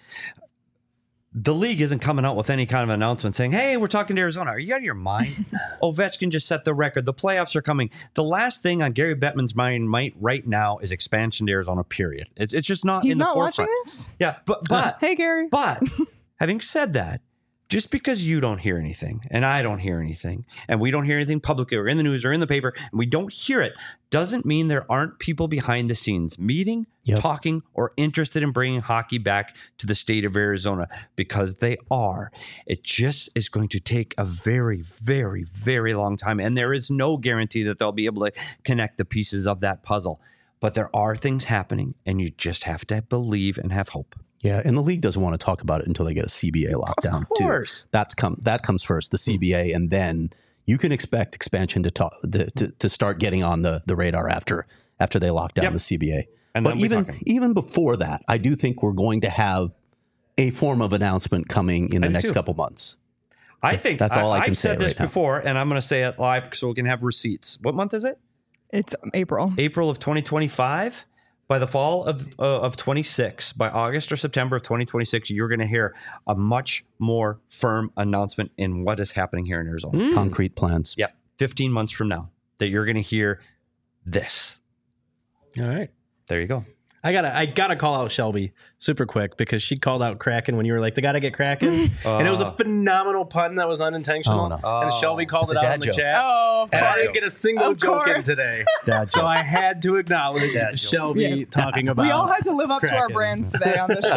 The league isn't coming out with any kind of announcement saying, hey, we're talking to Arizona. Are you out of your mind? Ovechkin just set the record. The playoffs are coming. The last thing on Gary Bettman's mind might right now is expansion to Arizona, period. It's, it's just not He's in the not forefront. watching this? Yeah, but, but Hey, Gary. But having said that, just because you don't hear anything and I don't hear anything and we don't hear anything publicly or in the news or in the paper and we don't hear it doesn't mean there aren't people behind the scenes meeting, Yep. talking, or interested in bringing hockey back to the state of Arizona, because they are. It just is going to take a very, very, very long time. And there is no guarantee that they'll be able to connect the pieces of that puzzle. But there are things happening and you just have to believe and have hope. Yeah, and the league doesn't want to talk about it until they get a C B A lockdown. Of course. Too. That's come that comes first, the C B A, and then you can expect expansion to talk to, to, to start getting on the, the radar after after they lock down Yep. the C B A. And but then we're even talking. even before that, I do think we're going to have a form of announcement coming in I the do next too. couple months. I think That's all I can I've say said this right now. before, and I'm going to say it live so we can have receipts. What month is it? It's April. April of twenty twenty-five. By the fall of uh, of twenty-six, by August or September of twenty twenty-six, you're going to hear a much more firm announcement in what is happening here in Arizona. Concrete plans. Yep, fifteen months from now, that you're going to hear this. All right. There you go. I gotta, I gotta call out Shelby super quick because she called out Kraken when you were like, "They gotta get Kraken," and it was a phenomenal pun that was unintentional. Oh, no. And Shelby called It's it a out dad in the joke. chat, Oh, of and I course. didn't get a single Of joke in course. today. Dad So joke. I had to acknowledge Dad joke. Shelby Yeah. talking about. We all had to live up to our Kraken. brands today on this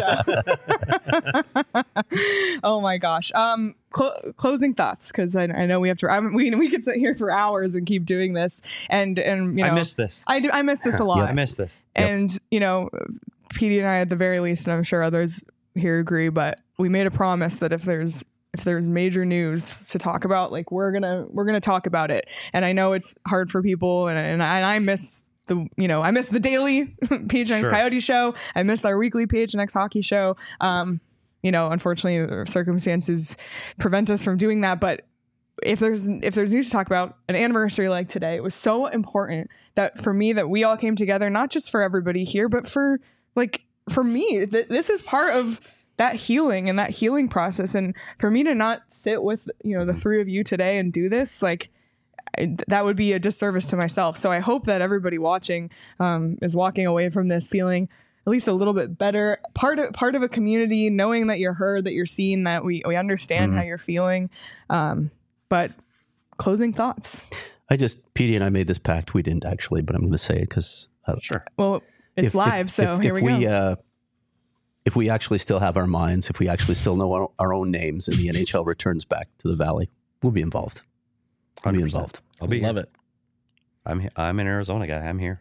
show. Oh my gosh. Um, cl- closing thoughts, because I, I know we have to. I mean, we we could sit here for hours and keep doing this, and and you know, I missed this. I do. I miss this a lot. I missed this. And you know, P D and I at the very least, and I'm sure others here agree, but we made a promise that if there's if there's major news to talk about, like we're gonna we're gonna talk about it. And I know it's hard for people, and and I, and I miss the you know I miss the daily P H N X Sure. Coyote show. I missed our weekly P H N X hockey show. Um, you know, unfortunately, the circumstances prevent us from doing that, but. If there's if there's news to talk about, an anniversary like today, it was so important that for me that we all came together, not just for everybody here, but for like for me, th- this is part of that healing and that healing process. And for me to not sit with you know the three of you today and do this, like I, that would be a disservice to myself. So I hope that everybody watching um, is walking away from this feeling at least a little bit better, part of part of a community, knowing that you're heard, that you're seen, that we we understand Mm-hmm. how you're feeling. Um, But closing thoughts. I just, P D and I made this pact. We didn't actually, but I'm going to say it because uh, Sure. Well, it's live, so if, here if we, we go. Uh, if we actually still have our minds, if we actually still know our, our own names, and the N H L returns back to the Valley, we'll be involved. We'll be one hundred percent. involved. I'll be Love here. it. I'm he- I'm an Arizona guy. I'm here.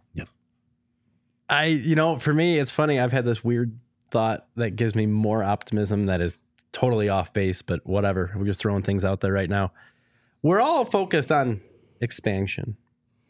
I, you know, for me, it's funny. I've had this weird thought that gives me more optimism that is totally off base, but whatever. We're just throwing things out there right now. We're all focused on expansion.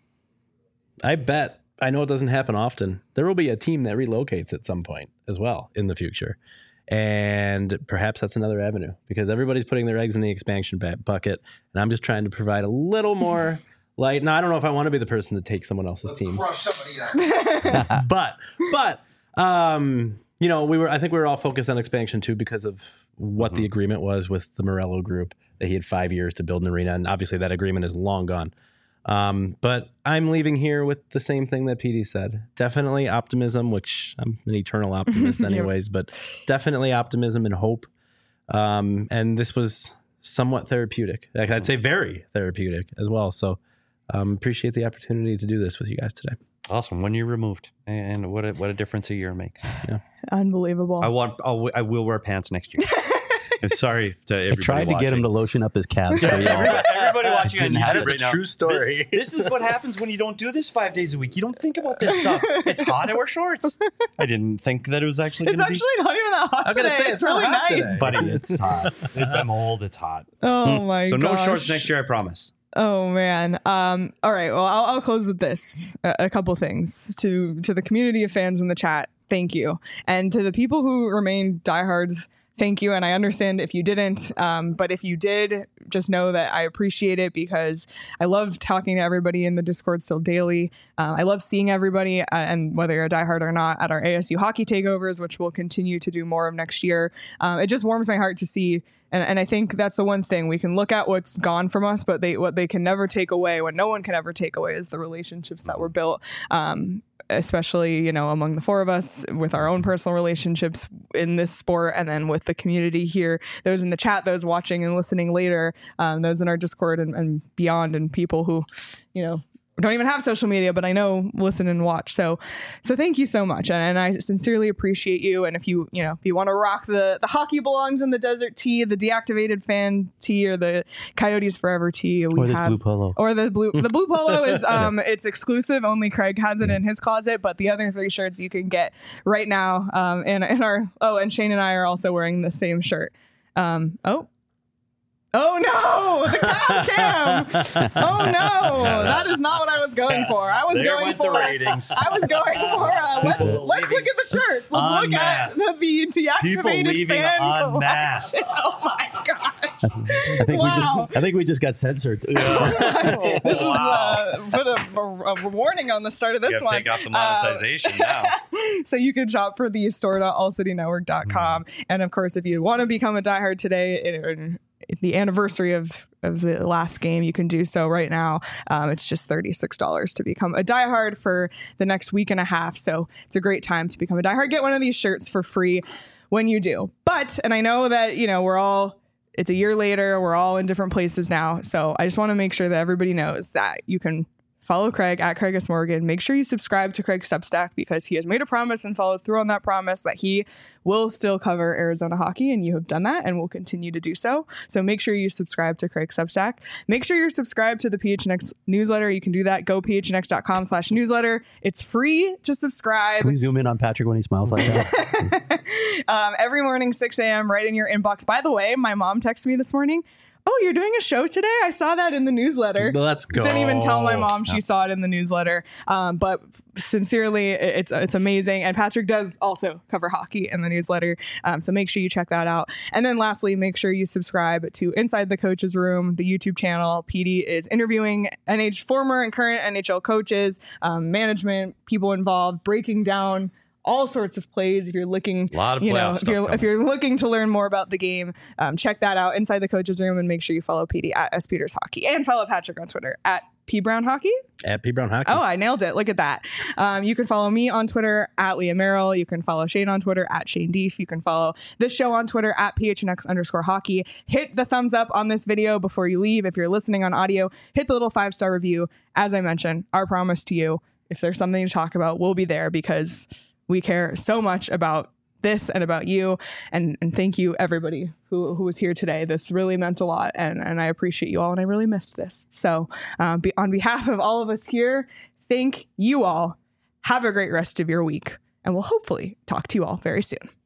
I bet, I know it doesn't happen often, there will be a team that relocates at some point as well in the future. And perhaps that's another avenue because everybody's putting their eggs in the expansion ba- bucket. And I'm just trying to provide a little more light. Now, I don't know if I want to be the person to take someone else's team. Crush somebody out. but but um you know we were I think we were all focused on expansion too because of what the agreement was with the Morello group that he had five years to build an arena, and obviously that agreement is long gone. Um but I'm leaving here with the same thing that P D said. Definitely optimism, which I'm an eternal optimist anyways, but definitely optimism and hope. Um and this was somewhat therapeutic. Like, I'd say very therapeutic as well. So um appreciate the opportunity to do this with you guys today. Awesome. One year removed, and what a what a difference a year makes. Unbelievable. I want. I'll, I will wear pants next year. I'm sorry to I everybody. tried to get him to watching. lotion up his calves. For y'all. Everybody watching on Didn't YouTube happen. right now. True story. This, this is what happens when you don't do this five days a week. You don't think about this stuff. It's hot. I wear shorts. I didn't think that it was actually. it's gonna actually not even that hot I was gonna today. say, it's it's not really hot nice. today. Buddy, it's hot. I'm old. It's hot. Oh my So no gosh. shorts next year. I promise. Oh man. Um, all right. Well, I'll, I'll close with this. A, a couple things to to the community of fans in the chat. Thank you, and to the people who remain diehards. thank you. And I understand if you didn't, um, but if you did, just know that I appreciate it because I love talking to everybody in the Discord still daily. Uh, I love seeing everybody, uh, and whether you're a diehard or not, at our A S U hockey takeovers, which we'll continue to do more of next year. Um, it just warms my heart to see. And, and I think that's the one thing we can look at what's gone from us, but they what they can never take away, what no one can ever take away, is the relationships that were built. Um, especially, you know, among the four of us with our own personal relationships in this sport, and then with the community here, those in the chat, those watching and listening later, um, those in our Discord and, and beyond, and people who, you know, don't even have social media, but I know listen and watch. So, so thank you so much. And, and I sincerely appreciate you. And if you, you know, if you want to rock the, the hockey belongs in the desert tee, the deactivated fan tee, or the Coyotes Forever tee, we or this have, blue polo, or the blue, the blue polo is, um, it's exclusive. Only Craig has it in his closet, but the other three shirts you can get right now. Um, and, and our, oh, and Shane and I are also wearing the same shirt. Um, oh, Oh no, the cam cam. Oh no, that is not what I was going for. I was There going went for the ratings. I was going for uh, let's People let's leaving look at the shirts. Let's en look at masse. the, the deactivated People leaving fan en masse. collection. Oh my gosh. I think we Wow. just I think we just got censored. This is uh, put a, a, a warning on the start of this You have to one. take off the Uh, monetization now. so you can shop for the store dot all city network dot com. Mm. And of course, if you want to become a diehard today, in, in the anniversary of, of the last game, you can do so right now. Um, it's just thirty-six dollars to become a diehard for the next week and a half. So it's a great time to become a diehard. Get one of these shirts for free when you do. But, and I know that, you know, we're all, it's a year later, we're all in different places now. So I just want to make sure that everybody knows that you can follow Craig at Craig S. Morgan. Make sure you subscribe to Craig's Substack, because he has made a promise and followed through on that promise that he will still cover Arizona hockey, and you have done that and will continue to do so. So make sure you subscribe to Craig's Substack. Make sure you're subscribed to the P H N X newsletter. You can do that. Go P H N X dot com slash newsletter. It's free to subscribe. Can we zoom in on Patrick when he smiles like that? um, every morning, six a.m., right in your inbox. By the way, my mom texted me this morning. Oh, you're doing a show today? I saw that in the newsletter. Let's go. Didn't even tell my mom she saw it in the newsletter. Um, but sincerely, it's it's amazing. And Patrick does also cover hockey in the newsletter. Um, so make sure you check that out. And then lastly, make sure you subscribe to Inside the Coaches Room, the YouTube channel. P D is interviewing N H former and current N H L coaches, um, management, people involved, breaking down all sorts of plays. If you're looking, A lot of you know, playoff if stuff you're coming. if you're looking to learn more about the game, um, check that out, Inside the Coaches Room, and make sure you follow P D at S Peters Hockey, and follow Patrick on Twitter at P Brown Hockey. At P Brown Hockey. Oh, I nailed it! Look at that. Um, you can follow me on Twitter at Leah Merrill. You can follow Shane on Twitter at Shane Deef. You can follow this show on Twitter at P H N X underscore hockey. Hit the thumbs up on this video before you leave. If you're listening on audio, hit the little five star review. As I mentioned, our promise to you: if there's something to talk about, we'll be there, because we care so much about this and about you. And, and thank you, everybody who, who was here today. This really meant a lot, and, and I appreciate you all, and I really missed this. So um, be, on behalf of all of us here, thank you all. Have a great rest of your week, and we'll hopefully talk to you all very soon.